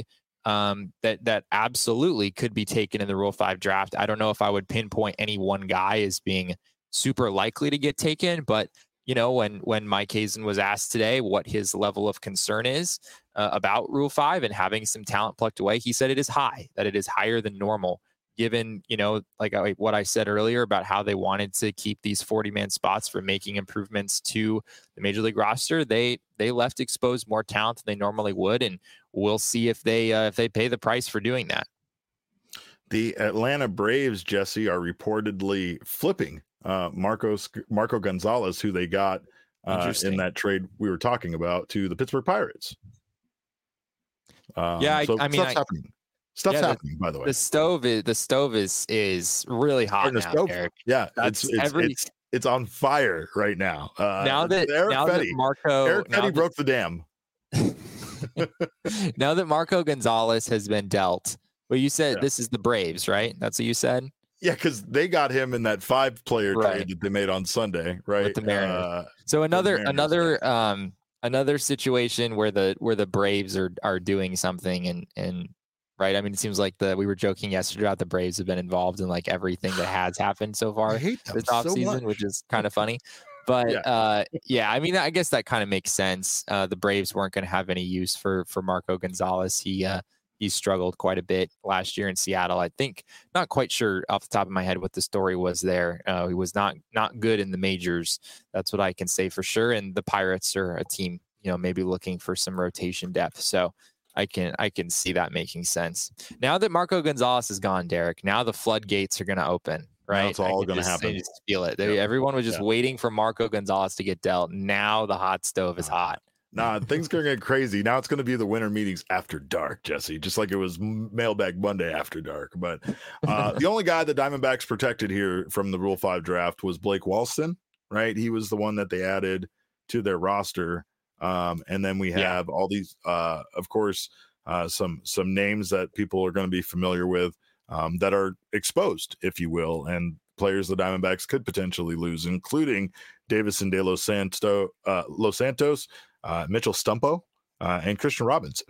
Speaker 2: um, that that absolutely could be taken in the Rule five draft. I don't know if I would pinpoint any one guy as being super likely to get taken, but you know, when when Mike Hazen was asked today what his level of concern is uh, about Rule five and having some talent plucked away, he said it is high, that it is higher than normal, given, you know, like I, what I said earlier about how they wanted to keep these forty-man spots for making improvements to the Major League roster. They they left exposed more talent than they normally would, and we'll see if they uh, if they pay the price for doing that.
Speaker 1: The Atlanta Braves, Jesse, are reportedly flipping uh, Marcos Marco Gonzalez, who they got uh, in that trade we were talking about, to the Pittsburgh Pirates. Um,
Speaker 2: yeah, I,
Speaker 1: so
Speaker 2: I mean,
Speaker 1: stuff's
Speaker 2: I,
Speaker 1: happening. Stuff's
Speaker 2: yeah,
Speaker 1: happening,
Speaker 2: the,
Speaker 1: by the way.
Speaker 2: The stove is the stove is is really hot now,
Speaker 1: stove,
Speaker 2: Eric.
Speaker 1: Yeah,
Speaker 2: That's
Speaker 1: it's it's,
Speaker 2: every,
Speaker 1: it's it's on fire right now. Uh,
Speaker 2: now that
Speaker 1: Eric
Speaker 2: now
Speaker 1: Fetty,
Speaker 2: that Marco
Speaker 1: Eric
Speaker 2: now
Speaker 1: Fetty
Speaker 2: that,
Speaker 1: broke the dam.
Speaker 2: now that Marco Gonzalez has been dealt, well, you said
Speaker 1: yeah.
Speaker 2: this is the Braves, right? That's what you said.
Speaker 1: Yeah, because they got him in that five-player
Speaker 2: right.
Speaker 1: trade that they made on Sunday, right?
Speaker 2: With the Mariners.
Speaker 1: Uh,
Speaker 2: so another
Speaker 1: Mariners,
Speaker 2: another
Speaker 1: yeah.
Speaker 2: um another situation where the where the Braves are are doing something and and right. I mean, it seems like the we were joking yesterday about the Braves have been involved in like everything that has happened so far this offseason, so which is kind of funny. But yeah. uh yeah, I mean, I guess that kind of makes sense. Uh the Braves weren't going to have any use for for Marco Gonzalez. He uh he struggled quite a bit last year in Seattle. I think, not quite sure off the top of my head what the story was there. Uh, he was not not good in the majors. That's what I can say for sure. And the Pirates are a team, you know, maybe looking for some rotation depth. So I can I can see that making sense. Now that Marco Gonzalez is gone, Derek, now the floodgates are going to open. Right,
Speaker 1: it's all going to happen.
Speaker 2: I just feel it. They,
Speaker 1: yeah.
Speaker 2: Everyone was just yeah. waiting for Marco Gonzalez to get dealt. Now the hot stove is hot.
Speaker 1: Nah, things are going to get crazy. Now it's going to be the winter meetings after dark, Jesse, just like it was Mailbag Monday after dark. But uh, the only guy the Diamondbacks protected here from the Rule five draft was Blake Walston, right? He was the one that they added to their roster. Um, and then we have yeah. all these, uh, of course, uh, some some names that people are going to be familiar with um, that are exposed, if you will, and players the Diamondbacks could potentially lose, including Davison De Los, Santo, uh, Los Santos, Uh, Mitchell Stumpo, uh, and Christian Robinson.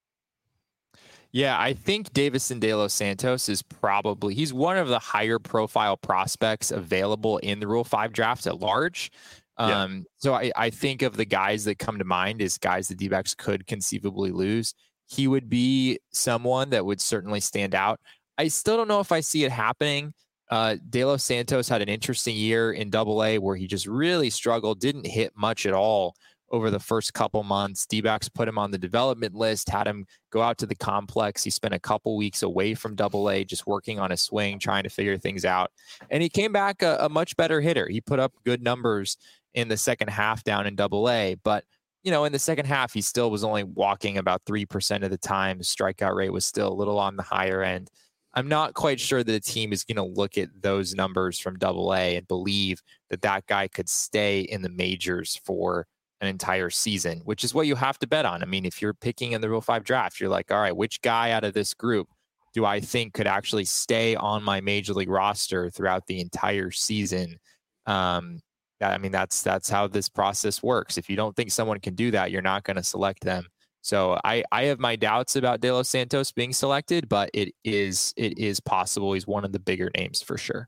Speaker 2: Yeah, I think Davison De Los Santos is probably, he's one of the higher profile prospects available in the Rule five draft at large. Um, yeah. So I, I think of the guys that come to mind as guys the D-backs could conceivably lose. He would be someone that would certainly stand out. I still don't know if I see it happening. Uh, De Los Santos had an interesting year in Double A where he just really struggled, didn't hit much at all over the first couple months. D-backs put him on the development list, had him go out to the complex. He spent a couple weeks away from Double A, just working on his swing, trying to figure things out. And he came back a, a much better hitter. He put up good numbers in the second half down in Double A. But, you know, in the second half, he still was only walking about three percent of the time. His strikeout rate was still a little on the higher end. I'm not quite sure that the team is going to look at those numbers from Double A and believe that that guy could stay in the majors for an entire season, which is what you have to bet on. I mean, if you're picking in the Rule five draft, you're like, all right, which guy out of this group do I think could actually stay on my Major League roster throughout the entire season? Um, I mean, that's that's how this process works. If you don't think someone can do that, you're not going to select them. So I, I have my doubts about De Los Santos being selected, but it is it is possible. He's one of the bigger names for sure.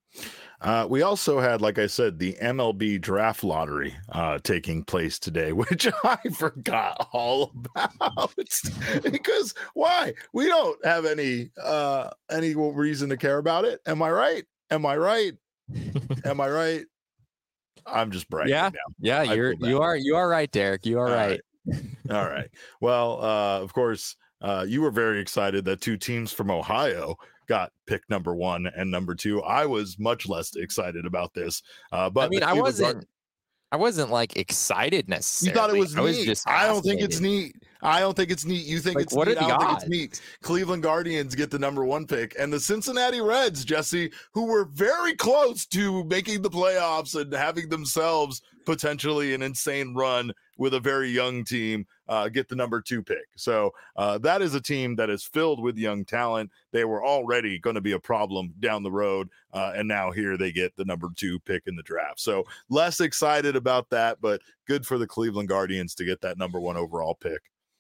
Speaker 1: Uh, we also had, like I said, the M L B draft lottery uh, taking place today, which I forgot all about. Because why? We don't have any uh, any reason to care about it. Am I right? Am I right? Am I right? I'm just bragging.
Speaker 2: Yeah,
Speaker 1: now.
Speaker 2: yeah,
Speaker 1: I
Speaker 2: you're you are you are right, Derek. You are
Speaker 1: all
Speaker 2: right.
Speaker 1: right. All right. Well, uh, of course, uh, you were very excited that two teams from Ohio got pick number one and number two. I was much less excited about this. Uh, but
Speaker 2: I mean, I wasn't, Guard- I wasn't like excited necessarily.
Speaker 1: You thought it was
Speaker 2: I
Speaker 1: neat.
Speaker 2: Was just
Speaker 1: I don't think it's neat. I don't think it's neat. You think
Speaker 2: like,
Speaker 1: it's
Speaker 2: what
Speaker 1: neat.
Speaker 2: Are the
Speaker 1: I don't
Speaker 2: odds?
Speaker 1: think it's neat. Cleveland Guardians get the number one pick, and the Cincinnati Reds, Jesse, who were very close to making the playoffs and having themselves potentially an insane run with a very young team, uh, get the number two pick. So uh, that is a team that is filled with young talent. They were already going to be a problem down the road, uh, and now here they get the number two pick in the draft. So less excited about that, but good for the Cleveland Guardians to get that number one overall pick.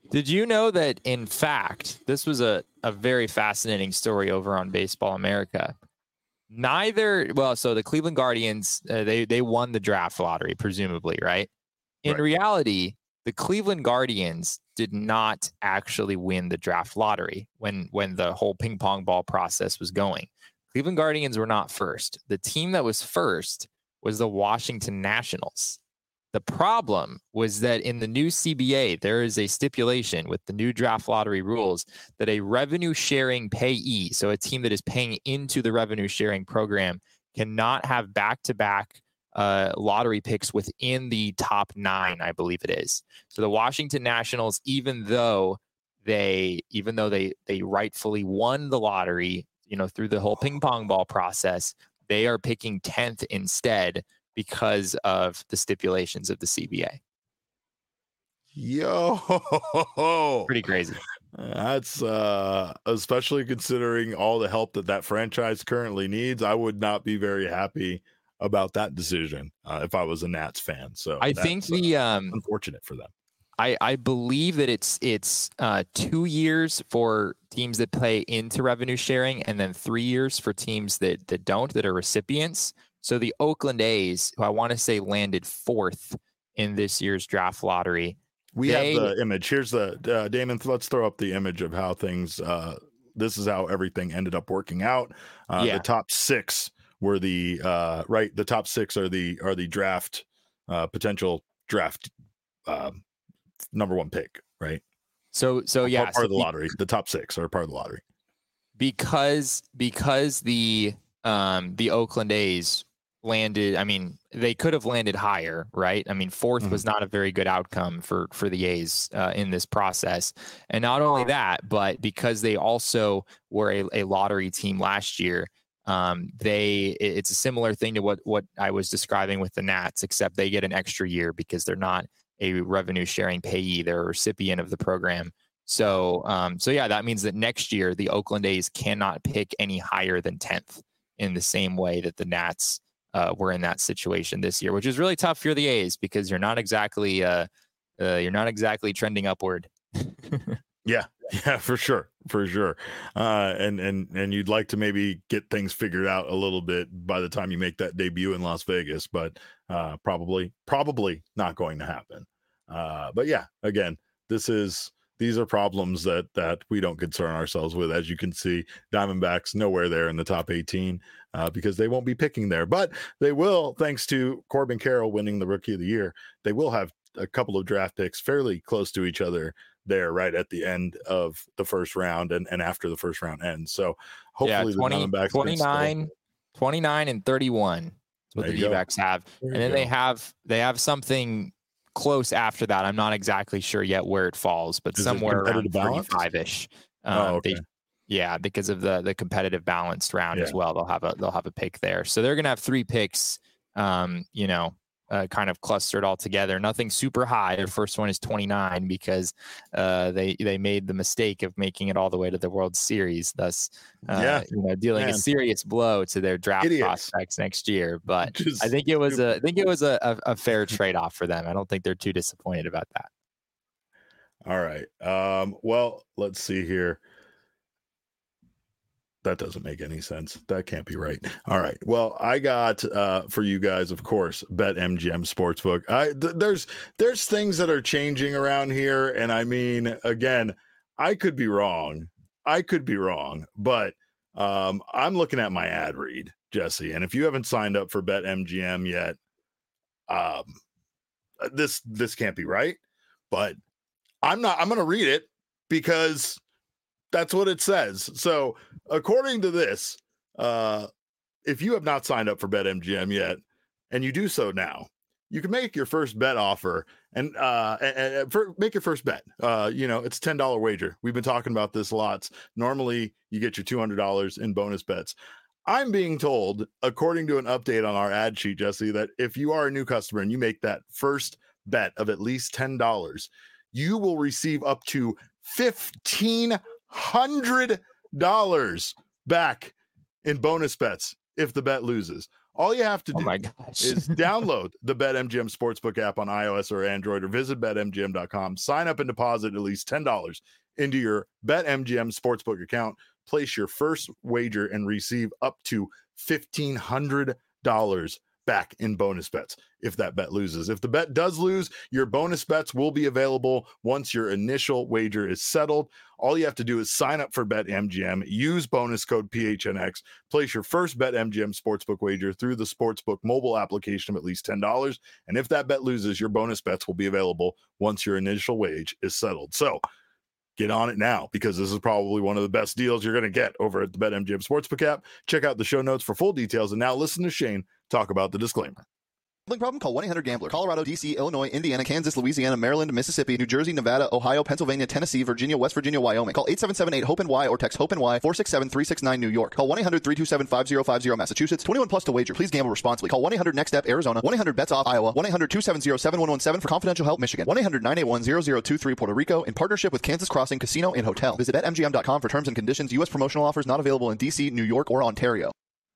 Speaker 2: Did you know that, in fact, this was a, a very fascinating story over on Baseball America? Neither, well, so the Cleveland Guardians, uh, they they won the draft lottery, presumably, right? In
Speaker 1: Right.
Speaker 2: reality, the Cleveland Guardians did not actually win the draft lottery when when the whole ping pong ball process was going. Cleveland Guardians were not first. The team that was first was the Washington Nationals. The problem was that in the new C B A, there is a stipulation with the new draft lottery rules that a revenue sharing payee, so a team that is paying into the revenue sharing program, cannot have back-to-back uh, lottery picks within the top nine, I believe it is. So the Washington Nationals, even though they, even though they they rightfully won the lottery, you know, through the whole ping pong ball process, they are picking tenth instead, because of the stipulations of the C B A.
Speaker 1: Yo,
Speaker 2: Pretty crazy.
Speaker 1: That's uh, especially considering all the help that that franchise currently needs. I would not be very happy about that decision uh, if I was a Nats fan. So
Speaker 2: I
Speaker 1: that's,
Speaker 2: think the
Speaker 1: uh,
Speaker 2: um,
Speaker 1: unfortunate for them.
Speaker 2: I, I believe that it's it's uh, two years for teams that play into revenue sharing, and then three years for teams that that don't, that are recipients. So the Oakland A's, who I want to say landed fourth in this year's draft lottery.
Speaker 1: We
Speaker 2: they,
Speaker 1: have the image. Here's the uh, Damon. Let's throw up the image of how things. Uh, this is how everything ended up working out. Uh,
Speaker 2: yeah.
Speaker 1: The top six were the uh, right. The top six are the are the draft uh, potential draft uh, number one pick. Right.
Speaker 2: So so
Speaker 1: Part-
Speaker 2: yeah,
Speaker 1: part
Speaker 2: so
Speaker 1: of the
Speaker 2: be-
Speaker 1: lottery. The top six are part of the lottery
Speaker 2: because because the um the Oakland A's landed, I mean, they could have landed higher, right? I mean, fourth
Speaker 1: Mhm.
Speaker 2: was not a very good outcome for for the A's uh, in this process. And not only that, but because they also were a, a lottery team last year, um, they it- it's a similar thing to what what I was describing with the Nats, except they get an extra year because they're not a revenue sharing payee; they're a recipient of the program. So, um, so yeah, that means that next year the Oakland A's cannot pick any higher than tenth in the same way that the Nats uh, were in that situation this year, which is really tough for the A's because you're not exactly uh, uh, you're not exactly trending upward.
Speaker 1: Yeah, yeah, for sure, for sure. Uh, and and and you'd like to maybe get things figured out a little bit by the time you make that debut in Las Vegas, but uh, probably probably not going to happen. Uh, but yeah, again, this is these are problems that that we don't concern ourselves with. As you can see, Diamondbacks nowhere there in the top eighteen uh, because they won't be picking there, but they will, thanks to Corbin Carroll winning the Rookie of the Year. They will have a couple of draft picks fairly close to each other there right at the end of the first round and, and after the first round ends. So hopefully
Speaker 2: yeah, twenty,
Speaker 1: the Diamondbacks
Speaker 2: twenty-nine, twenty-nine and thirty-one is what
Speaker 1: There
Speaker 2: the
Speaker 1: you go.
Speaker 2: D-backs have.
Speaker 1: There
Speaker 2: And
Speaker 1: you
Speaker 2: then they
Speaker 1: go.
Speaker 2: have they have something close after that. I'm not exactly sure yet where it falls, but
Speaker 1: Is it
Speaker 2: somewhere around
Speaker 1: competitive balance?
Speaker 2: thirty-five-ish. Um,
Speaker 1: Oh, okay.
Speaker 2: they, yeah, because of the the competitive balanced round as
Speaker 1: Yeah.
Speaker 2: well. They'll have a they'll have a pick there. So they're gonna have three picks. Um, you know, uh, kind of clustered all together. Nothing super high. Their first one is twenty-nine because uh, they they made the mistake of making it all the way to the World Series, thus uh,
Speaker 1: Yeah,
Speaker 2: you know dealing
Speaker 1: man.
Speaker 2: a serious blow to their draft
Speaker 1: Idiots.
Speaker 2: prospects next year. But
Speaker 1: Just
Speaker 2: I think it was a I
Speaker 1: stupid.
Speaker 2: think it was a, a, a fair trade off for them. I don't think they're too disappointed about that.
Speaker 1: All right. Um, well, let's see here. That doesn't make any sense. That can't be right. All right. Well, I got uh for you guys, of course, BetMGM Sportsbook. I th- there's there's things that are changing around here, and I mean, again, I could be wrong. I could be wrong, but um I'm looking at my ad read, Jesse, and if you haven't signed up for BetMGM yet, um this this can't be right, but I'm not I'm going to read it because that's what it says. So, according to this, uh, if you have not signed up for BetMGM yet, and you do so now, you can make your first bet offer and uh, and, and for, make your first bet. Uh, you know, it's a ten dollar wager. We've been talking about this lots. Normally, you get your two hundred dollars in bonus bets. I'm being told, according to an update on our ad sheet, Jesse, that if you are a new customer and you make that first bet of at least ten dollars, you will receive up to fifteen hundred dollars back in bonus bets if the bet loses. All you have to do
Speaker 2: Oh my gosh.
Speaker 1: is download the BetMGM Sportsbook app on iOS or Android, or visit bet M G M dot com. Sign up and deposit at least ten dollars into your BetMGM Sportsbook account. Place your first wager and receive up to fifteen hundred dollars back in bonus bets if that bet loses. If the bet does lose, your bonus bets will be available once your initial wager is settled. All you have to do is sign up for BetMGM, use bonus code P H N X, place your first BetMGM Sportsbook wager through the Sportsbook mobile application of at least ten dollars. And if that bet loses, your bonus bets will be available once your initial wage is settled. So get on it now, because this is probably one of the best deals you're going to get over at the BetMGM Sportsbook app. Check out the show notes for full details. And now listen to Shane talk about the disclaimer.
Speaker 6: Gambling problem? Call one eight hundred gambler. Colorado, D C, Illinois, Indiana, Kansas, Louisiana, Maryland, Mississippi, New Jersey, Nevada, Ohio, Pennsylvania, Tennessee, Virginia, West Virginia, Wyoming. Call eight seven seven eight hope N Y or text HOPE-NY four six seven three six nine New York. Call one eight hundred three two seven five zero five zero Massachusetts. twenty-one plus to wager. Please gamble responsibly. Call one eight hundred next step Arizona. one eight hundred bets off Iowa. one eight hundred two seven zero seven one one seven for confidential help Michigan. one eight hundred nine eight one zero zero two three Puerto Rico in partnership with Kansas Crossing Casino and Hotel. Visit bet M G M dot com for terms and conditions. U S promotional offers not available in D C, New York, or Ontario.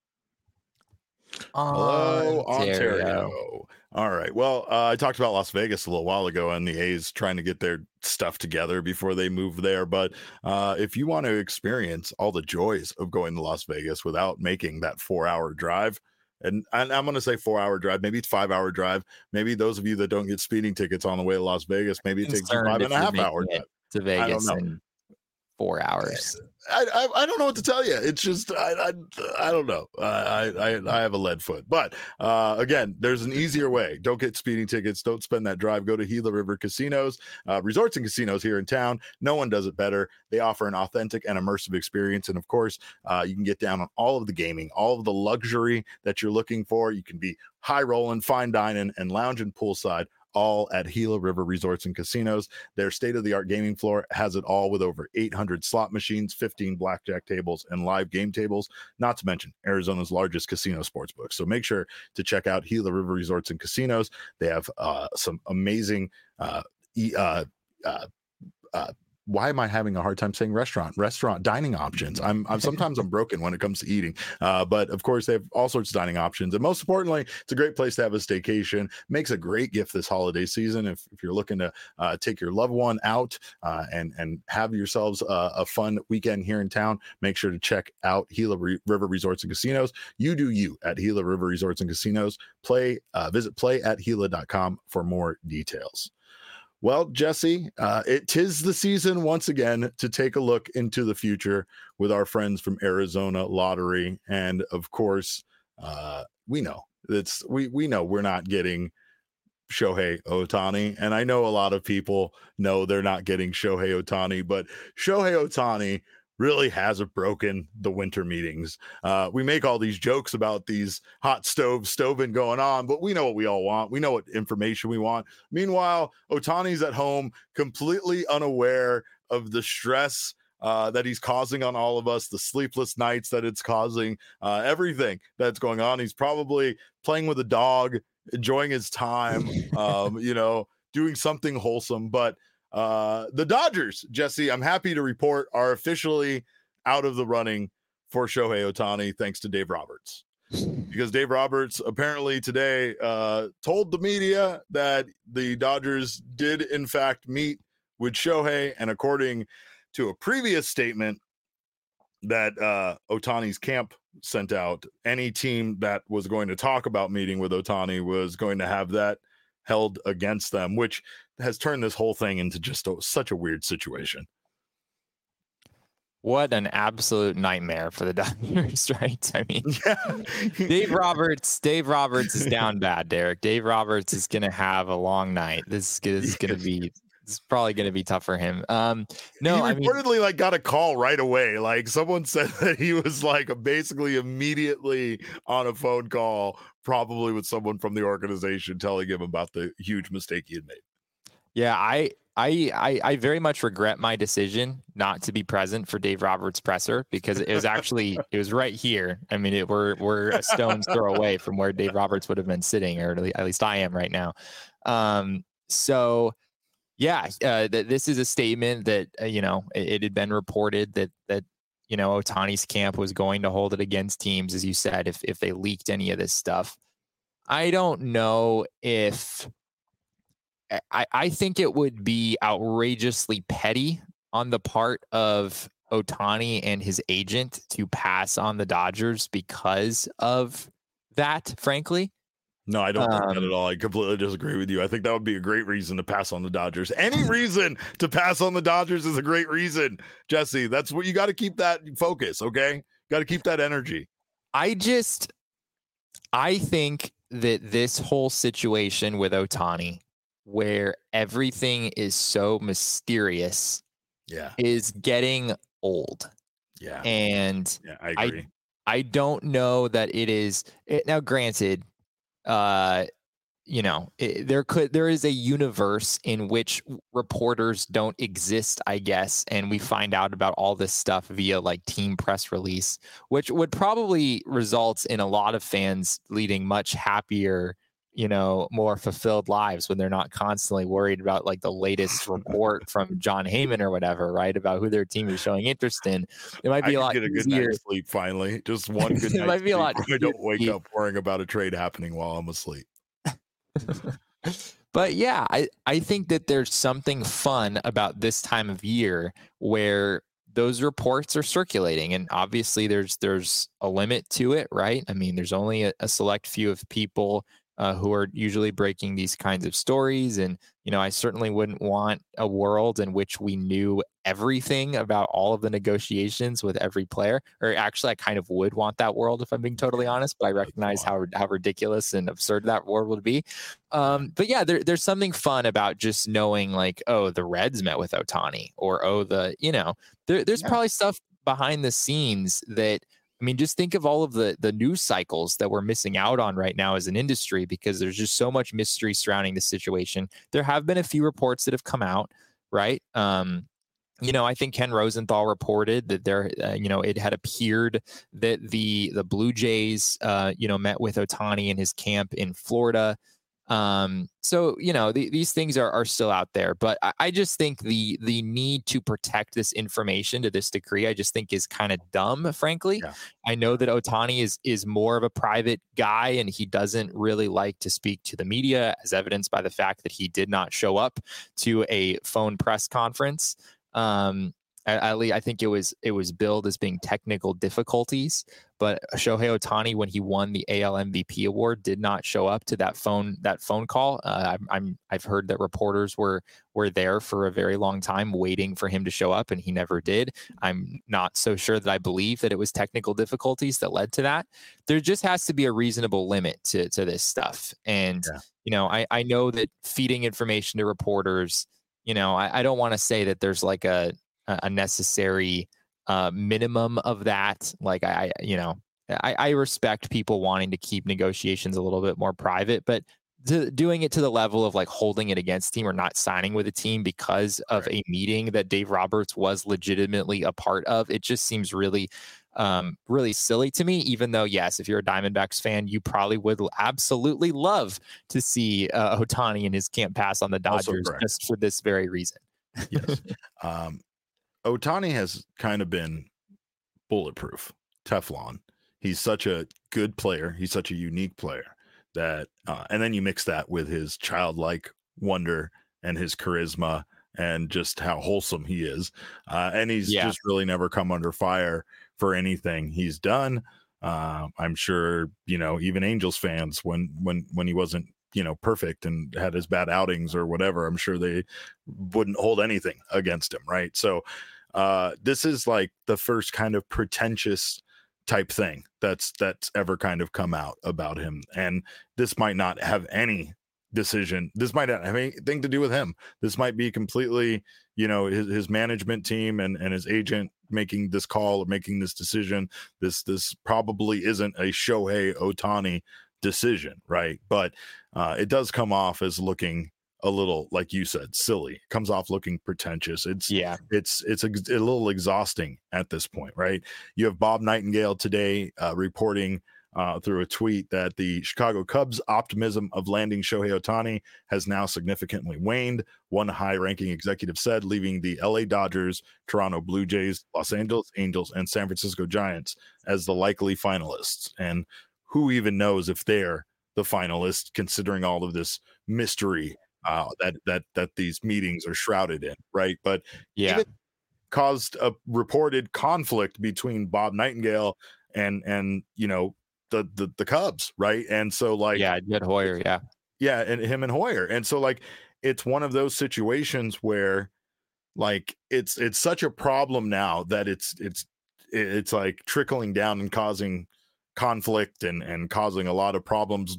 Speaker 1: Hello,
Speaker 2: Ontario.
Speaker 1: Ontario. All right. Well, uh, I talked about Las Vegas a little while ago and the A's trying to get their stuff together before they move there. But uh, if you want to experience all the joys of going to Las Vegas without making that four hour drive, and, and I'm going to say four hour drive, maybe it's five hour drive. Maybe those of you that don't get speeding tickets on the way to Las Vegas, maybe it takes you five and a half hour drive
Speaker 2: to Vegas in four hours.
Speaker 1: I, I I don't know what to tell you. It's just I I, I don't know. I, I I have a lead foot. But uh, again, there's an easier way. Don't get speeding tickets. Don't spend that drive. Go to Gila River Casinos, uh, resorts and casinos here in town. No one does it better. They offer an authentic and immersive experience, and of course, uh, you can get down on all of the gaming, all of the luxury that you're looking for. You can be high rolling, fine dining, and lounging poolside, all at Gila River Resorts and Casinos. Their state-of-the-art gaming floor has it all, with over eight hundred slot machines, fifteen blackjack tables, and live game tables, not to mention Arizona's largest casino sportsbook. So make sure to check out Gila River Resorts and Casinos. They have uh, some amazing uh, e- uh, uh, uh, why am I having a hard time saying restaurant, restaurant dining options? I'm, I'm sometimes I'm broken when it comes to eating, uh, but of course they have all sorts of dining options. And most importantly, it's a great place to have a staycation. Makes a great gift this holiday season. If, if you're looking to uh, take your loved one out uh, and, and have yourselves uh, a fun weekend here in town, make sure to check out Gila Re- River Resorts and Casinos. You do you at Gila River Resorts and Casinos. Play, uh, visit play at Gila dot com for more details. Well, Jesse, uh, it tis the season once again to take a look into the future with our friends from Arizona Lottery, and of course, uh, we know it's we we know we're not getting Shohei Ohtani, and I know a lot of people know they're not getting Shohei Ohtani, but Shohei Ohtani really hasn't broken the winter meetings. Uh, we make all these jokes about these hot stoves stoving going on, but we know what we all want. We know what information we want. Meanwhile, Ohtani's at home, completely unaware of the stress uh, that he's causing on all of us, the sleepless nights that it's causing, uh, everything that's going on. He's probably playing with a dog, enjoying his time, um, you know, doing something wholesome, but Uh, the Dodgers, Jesse, I'm happy to report, are officially out of the running for Shohei Ohtani, thanks to Dave Roberts. Because Dave Roberts apparently today uh, told the media that the Dodgers did, in fact, meet with Shohei. And according to a previous statement that uh, Ohtani's camp sent out, any team that was going to talk about meeting with Ohtani was going to have that held against them, which has turned this whole thing into just a, such a weird situation.
Speaker 2: What an absolute nightmare for the Dodgers, right? I mean, yeah. Dave Roberts, Dave Roberts is down bad, Derek. Dave Roberts is going to have a long night. This is, this is going to be, it's probably going to be tough for him. Um, no,
Speaker 1: he
Speaker 2: I
Speaker 1: reportedly
Speaker 2: mean,
Speaker 1: like got a call right away. Like someone said that he was like basically immediately on a phone call, probably with someone from the organization telling him about the huge mistake he had made.
Speaker 2: Yeah, I, I, I, I very much regret my decision not to be present for Dave Roberts' presser, because it was actually, it was right here. I mean, it, we're, we're a stone's throw away from where Dave Roberts would have been sitting, or at least I am right now. Um, so yeah, uh, th- this is a statement that, uh, you know, it, it had been reported that, that, you know, Ohtani's camp was going to hold it against teams, as you said, if if they leaked any of this stuff. I don't know if I, I think it would be outrageously petty on the part of Ohtani and his agent to pass on the Dodgers because of that, frankly.
Speaker 1: No, I don't
Speaker 2: um,
Speaker 1: think that at all. I completely disagree with you. I think that would be a great reason to pass on the Dodgers. Any reason to pass on the Dodgers is a great reason, Jesse. That's what you got to keep that focus, okay? Got to keep that energy.
Speaker 2: I just, I think that this whole situation with Ohtani, where everything is so mysterious,
Speaker 1: yeah,
Speaker 2: is getting old.
Speaker 1: Yeah.
Speaker 2: And
Speaker 1: yeah, I agree.
Speaker 2: I, I don't know that it is it, now granted, uh, you know, it, there could there is a universe in which reporters don't exist, I guess, and we find out about all this stuff via like team press release, which would probably result in a lot of fans leading much happier, you know, more fulfilled lives when they're not constantly worried about like the latest report from John Heyman or whatever, right? About who their team is showing interest in. It might be
Speaker 1: I
Speaker 2: a lot
Speaker 1: get a good
Speaker 2: easier.
Speaker 1: night's sleep finally. Just one good
Speaker 2: It
Speaker 1: night's
Speaker 2: might be a
Speaker 1: sleep
Speaker 2: lot
Speaker 1: where I don't
Speaker 2: easier
Speaker 1: wake
Speaker 2: to
Speaker 1: up worrying about a trade happening while I'm asleep.
Speaker 2: But yeah, I, I think that there's something fun about this time of year where those reports are circulating, and obviously there's there's a limit to it, right? I mean, there's only a, a select few of people uh, who are usually breaking these kinds of stories, and you know, I certainly wouldn't want a world in which we knew everything about all of the negotiations with every player. Or actually, I kind of would want that world if I'm being totally honest, but I recognize how how ridiculous and absurd that world would be. Um, but yeah, there, there's something fun about just knowing like, oh, the Reds met with Ohtani, or oh, the, you know, there, there's yeah. probably stuff behind the scenes that, I mean, just think of all of the the news cycles that we're missing out on right now as an industry, because there's just so much mystery surrounding the situation. There have been a few reports that have come out, right? Um, you know, I think Ken Rosenthal reported that there, uh, you know, it had appeared that the the Blue Jays, uh, you know, met with Ohtani in his camp in Florida. Um, so, you know, the, these things are, are still out there, but I, I just think the the need to protect this information to this degree, I just think is kind of dumb, frankly. Yeah. I know that Ohtani is is more of a private guy, and he doesn't really like to speak to the media, as evidenced by the fact that he did not show up to a phone press conference. Um, at least I think it was it was billed as being technical difficulties, but Shohei Ohtani, when he won the A L M V P award, did not show up to that phone that phone call. Uh, I'm, I'm I've heard that reporters were were there for a very long time waiting for him to show up, and he never did. I'm not so sure that I believe that it was technical difficulties that led to that. There just has to be a reasonable limit to to this stuff, and yeah. you know, I I know that feeding information to reporters, you know, I, I don't want to say that there's like a a necessary uh, minimum of that. Like I, you know, I, I respect people wanting to keep negotiations a little bit more private, but to, doing it to the level of like holding it against team or not signing with a team because of right. a meeting that Dave Roberts was legitimately a part of, it just seems really, um, really silly to me, even though, yes, if you're a Diamondbacks fan, you probably would absolutely love to see uh, Ohtani and his camp pass on the Dodgers just for this very reason.
Speaker 1: Yes. um, Ohtani has kind of been bulletproof, Teflon. He's such a good player. He's such a unique player that, uh, and then you mix that with his childlike wonder and his charisma and just how wholesome he is. Uh, and he's yeah. just really never come under fire for anything he's done. Uh, I'm sure, you know, even Angels fans, when, when, when he wasn't, you know, perfect and had his bad outings or whatever, I'm sure they wouldn't hold anything against him. Right. So uh, this is like the first kind of pretentious type thing that's, that's ever kind of come out about him. And this might not have any decision. This might not have anything to do with him. This might be completely, you know, his, his management team and, and his agent making this call or making this decision. This, this probably isn't a Shohei Ohtani decision, right? But uh, it does come off as looking a little, like you said, silly. It comes off looking pretentious. It's yeah, it's it's a, a little exhausting at this point, right? You have Bob Nightingale today uh, reporting uh, through a tweet that the Chicago Cubs' optimism of landing Shohei Ohtani has now significantly waned, one high-ranking executive said, leaving the L A Dodgers, Toronto Blue Jays, Los Angeles Angels, and San Francisco Giants as the likely finalists. And who even knows if they're the finalists, considering all of this mystery uh, that that that these meetings are shrouded in, right? But
Speaker 2: yeah,
Speaker 1: even caused a reported conflict between Bob Nightingale and and you know the the the Cubs, right? And so like
Speaker 2: yeah, Jed Hoyer, yeah,
Speaker 1: yeah, and him and Hoyer, and so like it's one of those situations where like it's it's such a problem now that it's it's it's like trickling down and causing conflict and and causing a lot of problems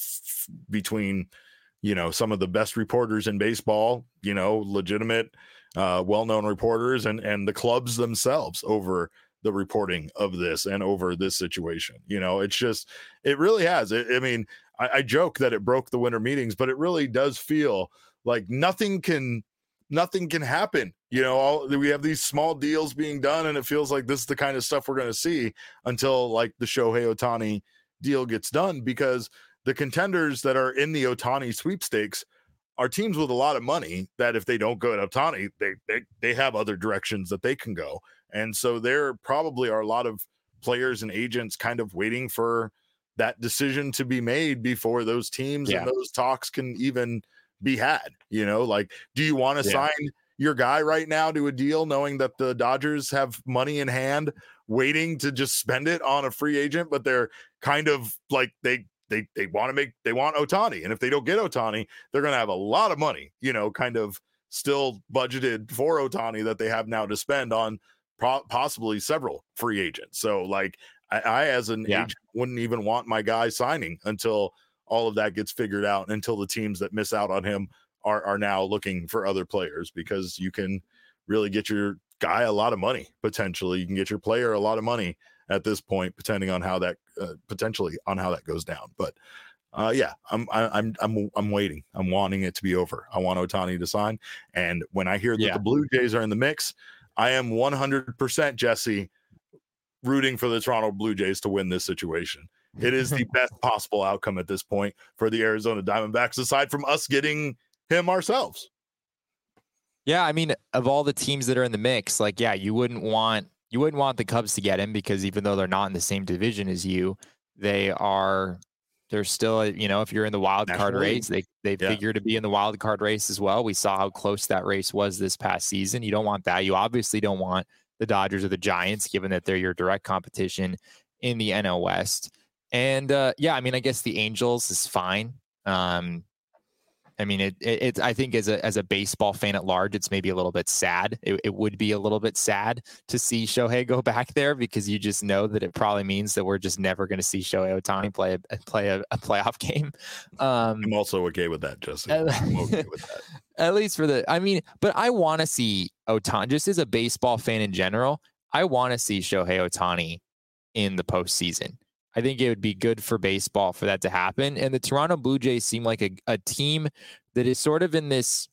Speaker 1: between you know some of the best reporters in baseball, you know, legitimate uh well-known reporters and and the clubs themselves over the reporting of this and over this situation. You know, it's just it really has it, I mean I, I joke that it broke the winter meetings, but it really does feel like nothing can nothing can happen. You know, all, we have these small deals being done, and it feels like this is the kind of stuff we're going to see until like the Shohei Ohtani deal gets done, because the contenders that are in the Ohtani sweepstakes are teams with a lot of money that if they don't go at Ohtani, they, they, they have other directions that they can go. And so there probably are a lot of players and agents kind of waiting for that decision to be made before those teams
Speaker 2: yeah.
Speaker 1: and those talks can even be had. You know, like, do you want to
Speaker 2: Yeah.
Speaker 1: sign your guy right now to a deal knowing that the Dodgers have money in hand waiting to just spend it on a free agent, but they're kind of like they they they want to make they want Ohtani, and if they don't get Ohtani, they're going to have a lot of money, you know, kind of still budgeted for Ohtani that they have now to spend on pro- possibly several free agents. So like I, I as an
Speaker 2: Yeah.
Speaker 1: agent wouldn't even want my guy signing until all of that gets figured out, and until the teams that miss out on him are are now looking for other players, because you can really get your guy a lot of money. Potentially you can get your player a lot of money at this point, depending on how that uh, potentially on how that goes down. But uh, yeah, I'm I, I'm I'm I'm waiting. I'm wanting it to be over. I want Ohtani to sign, and when I hear that
Speaker 2: Yeah.
Speaker 1: the Blue Jays are in the mix, I am one hundred percent Jesse rooting for the Toronto Blue Jays to win this situation. It is the best possible outcome at this point for the Arizona Diamondbacks, aside from us getting him ourselves.
Speaker 2: Yeah, I mean, of all the teams that are in the mix, like, yeah, you wouldn't want you wouldn't want the Cubs to get him, because even though they're not in the same division as you, they are they're still, you know, if you're in the wild card
Speaker 1: National
Speaker 2: race, they they
Speaker 1: Yeah.
Speaker 2: figure to be in the wild card race as well. We saw how close that race was this past season. You don't want that. You obviously don't want the Dodgers or the Giants, given that they're your direct competition in the N L West. And uh, yeah, I mean, I guess the Angels is fine. Um, I mean, it, it, it's, I think as a, as a baseball fan at large, it's maybe a little bit sad. It, it would be a little bit sad to see Shohei go back there, because you just know that it probably means that we're just never going to see Shohei Ohtani play a, play a, a playoff game. Um,
Speaker 1: I'm also okay with that, Jesse. I'm okay with that.
Speaker 2: At least for the, I mean, but I want to see Ohtani, just as a baseball fan in general, I want to see Shohei Ohtani in the postseason. I think it would be good for baseball for that to happen. And the Toronto Blue Jays seem like a, a team that is sort of in this,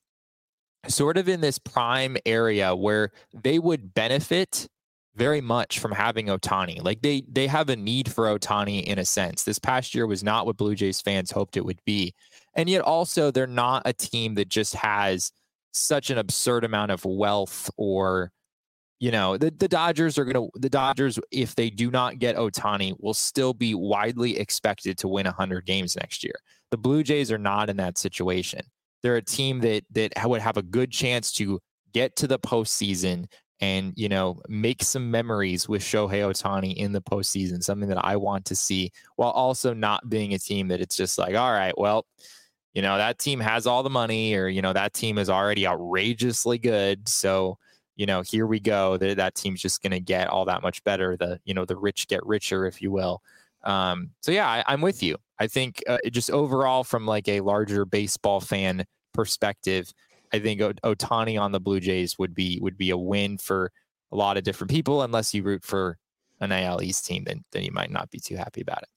Speaker 2: sort of in this prime area where they would benefit very much from having Ohtani. Like they, they have a need for Ohtani in a sense. This past year was not what Blue Jays fans hoped it would be. And yet also they're not a team that just has such an absurd amount of wealth, or, you know, the, the Dodgers are going to, the Dodgers, if they do not get Ohtani, will still be widely expected to win one hundred games next year. The Blue Jays are not in that situation. They're a team that that would have a good chance to get to the postseason and, you know, make some memories with Shohei Ohtani in the postseason, something that I want to see, while also not being a team that it's just like, all right, well, you know, that team has all the money, or, you know, that team is already outrageously good. So, you know, here we go. That that team's just going to get all that much better. The, you know, the rich get richer, if you will. Um, so yeah, I, I'm with you. I think uh, just overall, from like a larger baseball fan perspective, I think o- Ohtani on the Blue Jays would be would be a win for a lot of different people. Unless you root for an A L East team, then then you might not be too happy about it.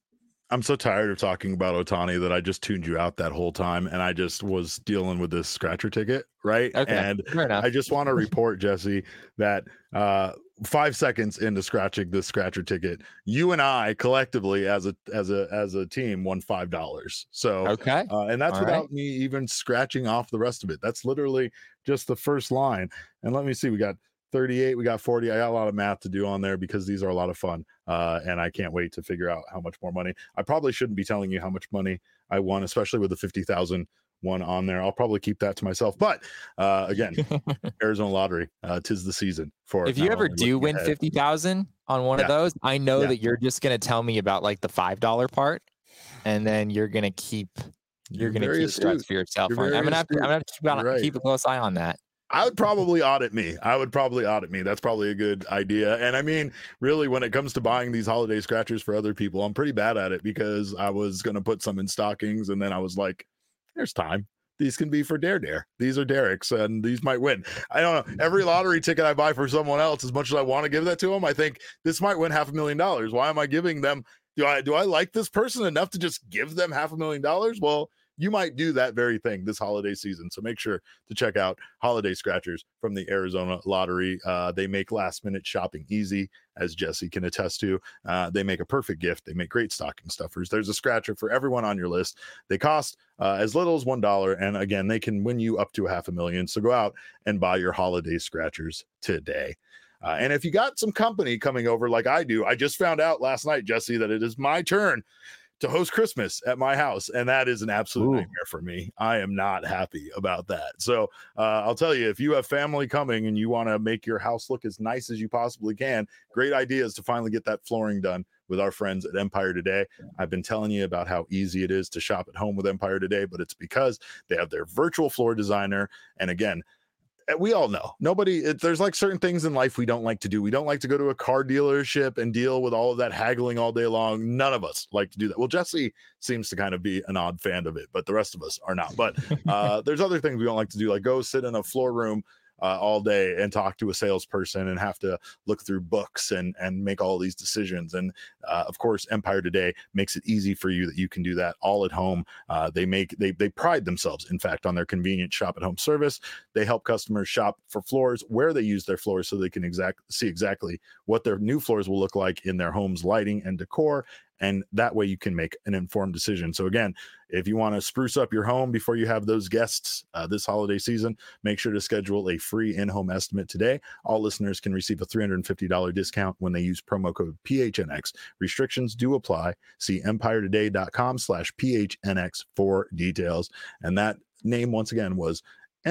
Speaker 1: I'm so tired of talking about Ohtani that I just tuned you out that whole time, and I just was dealing with this scratcher ticket, right?
Speaker 2: Okay,
Speaker 1: and
Speaker 2: fair enough.
Speaker 1: I just want to report, Jesse, that uh, five seconds into scratching this scratcher ticket, you and I collectively, as a as a as a team, won five dollars. So
Speaker 2: Okay,
Speaker 1: uh, and that's
Speaker 2: all
Speaker 1: without
Speaker 2: right.
Speaker 1: me even scratching off the rest of it. That's literally just the first line. And let me see, we got thirty-eight, we got forty. I got a lot of math to do on there because these are a lot of fun. Uh, and I can't wait to figure out how much more money. I probably shouldn't be telling you how much money I won, especially with the fifty thousand one on there. I'll probably keep that to myself. But uh, again, Arizona Lottery, uh, 'tis the season for
Speaker 2: If you
Speaker 1: not
Speaker 2: ever
Speaker 1: only
Speaker 2: do
Speaker 1: looking
Speaker 2: win
Speaker 1: ahead-
Speaker 2: fifty thousand on one
Speaker 1: Yeah.
Speaker 2: of those, I know
Speaker 1: Yeah.
Speaker 2: that you're just going to tell me about like the five dollar part, and then you're going to keep you're,
Speaker 1: You're
Speaker 2: going to
Speaker 1: very
Speaker 2: keep the rest
Speaker 1: astute.
Speaker 2: for yourself.
Speaker 1: You're
Speaker 2: I'm
Speaker 1: very
Speaker 2: going to have to, I'm
Speaker 1: astute.
Speaker 2: gonna have to keep, on,
Speaker 1: You're right.
Speaker 2: keep a close eye on that.
Speaker 1: I would probably audit me. I would probably audit me. That's probably a good idea. And I mean, really, when it comes to buying these holiday scratchers for other people, I'm pretty bad at it because I was going to put some in stockings and then I was like, there's time. These can be for Dare Dare. These are Derek's and these might win. I don't know. Every lottery ticket I buy for someone else, as much as I want to give that to them, I think this might win half a million dollars. Why am I giving them? Do I, do I like this person enough to just give them half a million dollars? Well, you might do that very thing this holiday season. So make sure to check out Holiday Scratchers from the Arizona Lottery. Uh, they make last minute shopping easy, as Jesse can attest to. Uh, they make a perfect gift. They make great stocking stuffers. There's a scratcher for everyone on your list. They cost uh, as little as one dollar. And again, they can win you up to a half a million. So go out and buy your holiday scratchers today. Uh, and if you got some company coming over like I do, I just found out last night, Jesse, that it is my turn to host Christmas at my house. And that is an absolute
Speaker 2: Ooh.
Speaker 1: nightmare for me. I am not happy about that. So uh, I'll tell you, if you have family coming and you want to make your house look as nice as you possibly can, great idea is to finally get that flooring done with our friends at Empire Today. I've been telling you about how easy it is to shop at home with Empire Today, but it's because they have their virtual floor designer. And again, we all know nobody it, there's like certain things in life we don't like to do. We don't like to go to a car dealership and deal with all of that haggling all day long. None of us like to do that. Well, Jesse seems to kind of be an odd fan of it, but the rest of us are not. But uh there's other things we don't like to do, like go sit in a floor room Uh, all day and talk to a salesperson and have to look through books and and make all these decisions. And uh, of course, Empire Today makes it easy for you that you can do that all at home. Uh, they make they they pride themselves, in fact, on their convenient shop at home service. They help customers shop for floors where they use their floors so they can exact see exactly what their new floors will look like in their home's lighting and decor. And that way you can make an informed decision. So again, if you want to spruce up your home before you have those guests uh, this holiday season, make sure to schedule a free in-home estimate today. All listeners can receive a three hundred fifty dollars discount when they use promo code P H N X. Restrictions do apply. See empiretoday.com slash PHNX for details. And that name, once again, was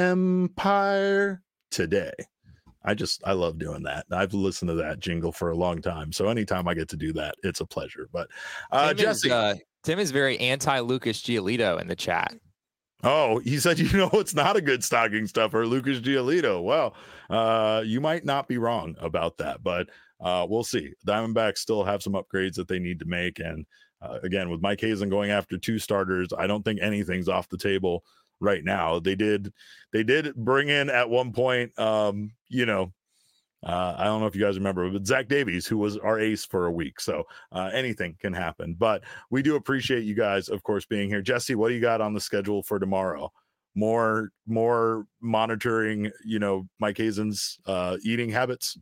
Speaker 1: Empire Today. I just, I love doing that. I've listened to that jingle for a long time. So anytime I get to do that, it's a pleasure. But uh,
Speaker 2: Tim
Speaker 1: Jesse.
Speaker 2: Is, uh, Tim is very anti-Lucas Giolito in the chat.
Speaker 1: Oh, he said, you know, it's not a good stocking stuffer, Lucas Giolito. Well, uh, you might not be wrong about that, but uh, we'll see. Diamondbacks still have some upgrades that they need to make. And uh, again, with Mike Hazen going after two starters, I don't think anything's off the table right now. They did, they did bring in at one point, um, you know, uh, I don't know if you guys remember, but Zach Davies, who was our ace for a week. So uh, anything can happen, but we do appreciate you guys, of course, being here. Jesse, what do you got on the schedule for tomorrow? More, more monitoring, you know, Mike Hazen's uh, eating habits.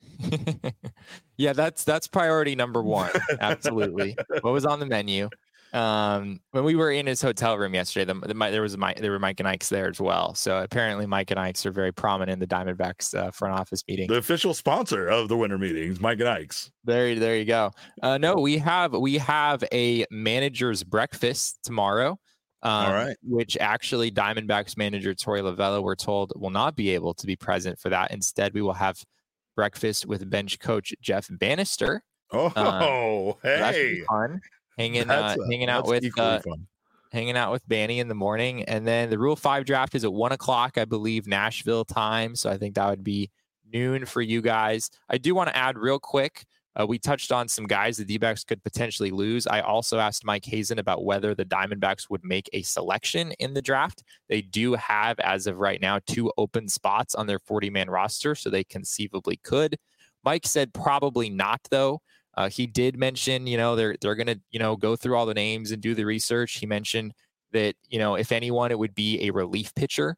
Speaker 2: Yeah, that's, that's priority number one. Absolutely. What was on the menu? Um, when we were in his hotel room yesterday, the, the, there was Mike, there were Mike and Ike's there as well. So apparently Mike and Ike's are very prominent in the Diamondbacks uh, front office meeting.
Speaker 1: The official sponsor of the winter meetings, Mike and Ike's.
Speaker 2: There, there you go. Uh, no, we have, we have a manager's breakfast tomorrow. Um,
Speaker 1: All right.
Speaker 2: Which actually Diamondbacks manager Torey Lovullo, we're told, will not be able to be present for that. Instead, we will have breakfast with bench coach Jeff Bannister.
Speaker 1: Oh,
Speaker 2: um,
Speaker 1: hey.
Speaker 2: So that should be fun. Hanging, uh,
Speaker 1: a,
Speaker 2: hanging out with, uh,
Speaker 1: fun.
Speaker 2: hanging out with Banny in the morning, and then the Rule Five draft is at one o'clock, I believe, Nashville time. So I think that would be noon for you guys. I do want to add real quick. Uh, we touched on some guys the D-backs could potentially lose. I also asked Mike Hazen about whether the Diamondbacks would make a selection in the draft. They do have, as of right now, two open spots on their forty-man roster, so they conceivably could. Mike said probably not, though. Uh, he did mention, you know, they're they're gonna, you know, go through all the names and do the research. He mentioned that, you know, if anyone, it would be a relief pitcher.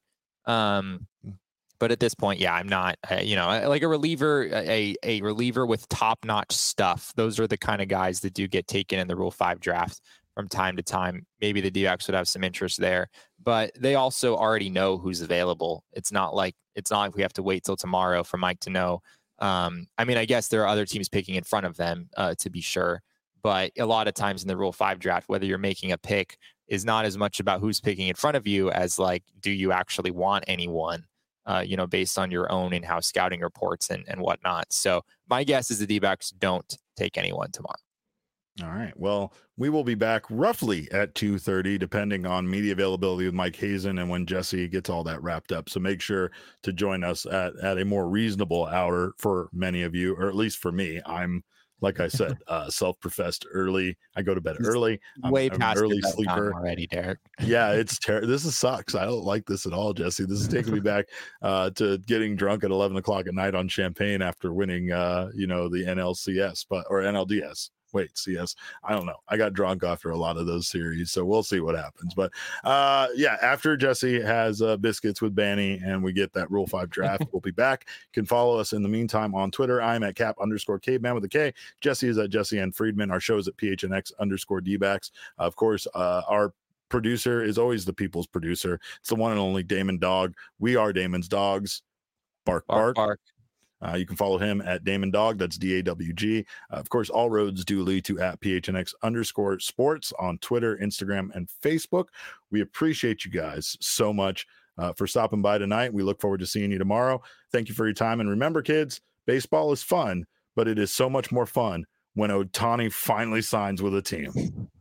Speaker 2: Um, but at this point, yeah, I'm not, uh, you know, like a reliever, a a reliever with top notch stuff. Those are the kind of guys that do get taken in the Rule Five draft from time to time. Maybe the D-backs would have some interest there, but they also already know who's available. It's not like it's not like we have to wait till tomorrow for Mike to know. Um, I mean, I guess there are other teams picking in front of them, uh, to be sure, but a lot of times in the Rule Five draft, whether you're making a pick is not as much about who's picking in front of you as like, do you actually want anyone, uh, you know, based on your own in-house scouting reports and, and whatnot. So my guess is the D-backs don't take anyone tomorrow.
Speaker 1: All right. Well, we will be back roughly at two thirty, depending on media availability with Mike Hazen and when Jesse gets all that wrapped up. So make sure to join us at, at a more reasonable hour for many of you, or at least for me. I'm, like I said, uh, self-professed early. I go to bed early. I'm,
Speaker 2: Way
Speaker 1: I'm
Speaker 2: past
Speaker 1: an early
Speaker 2: your bedtime
Speaker 1: sleeper
Speaker 2: already, Derek.
Speaker 1: Yeah, it's terrible. This is sucks. I don't like this at all, Jesse. This is taking me back uh, to getting drunk at eleven o'clock at night on champagne after winning, uh, you know, the N L C S, but or N L D S. Wait, C S. I don't know. I got drunk after a lot of those series, so we'll see what happens. But uh, yeah, after Jesse has uh, biscuits with Banny and we get that Rule Five draft, we'll be back. You can follow us in the meantime on Twitter. I'm at cap underscore caveman with a K. Jesse is at Jesse N. Friedman. Our show is at P H N X underscore D-backs. Uh, of course, uh, our producer is always the people's producer. It's the one and only Damon Dog. We are Damon's dogs. Bark, bark.
Speaker 2: Bark, bark.
Speaker 1: Uh, you can follow him at Damon Dog. That's D A W G. Uh, of course, all roads do lead to at P H N X underscore sports on Twitter, Instagram, and Facebook. We appreciate you guys so much uh, for stopping by tonight. We look forward to seeing you tomorrow. Thank you for your time. And remember, kids, baseball is fun, but it is so much more fun when Ohtani finally signs with a team.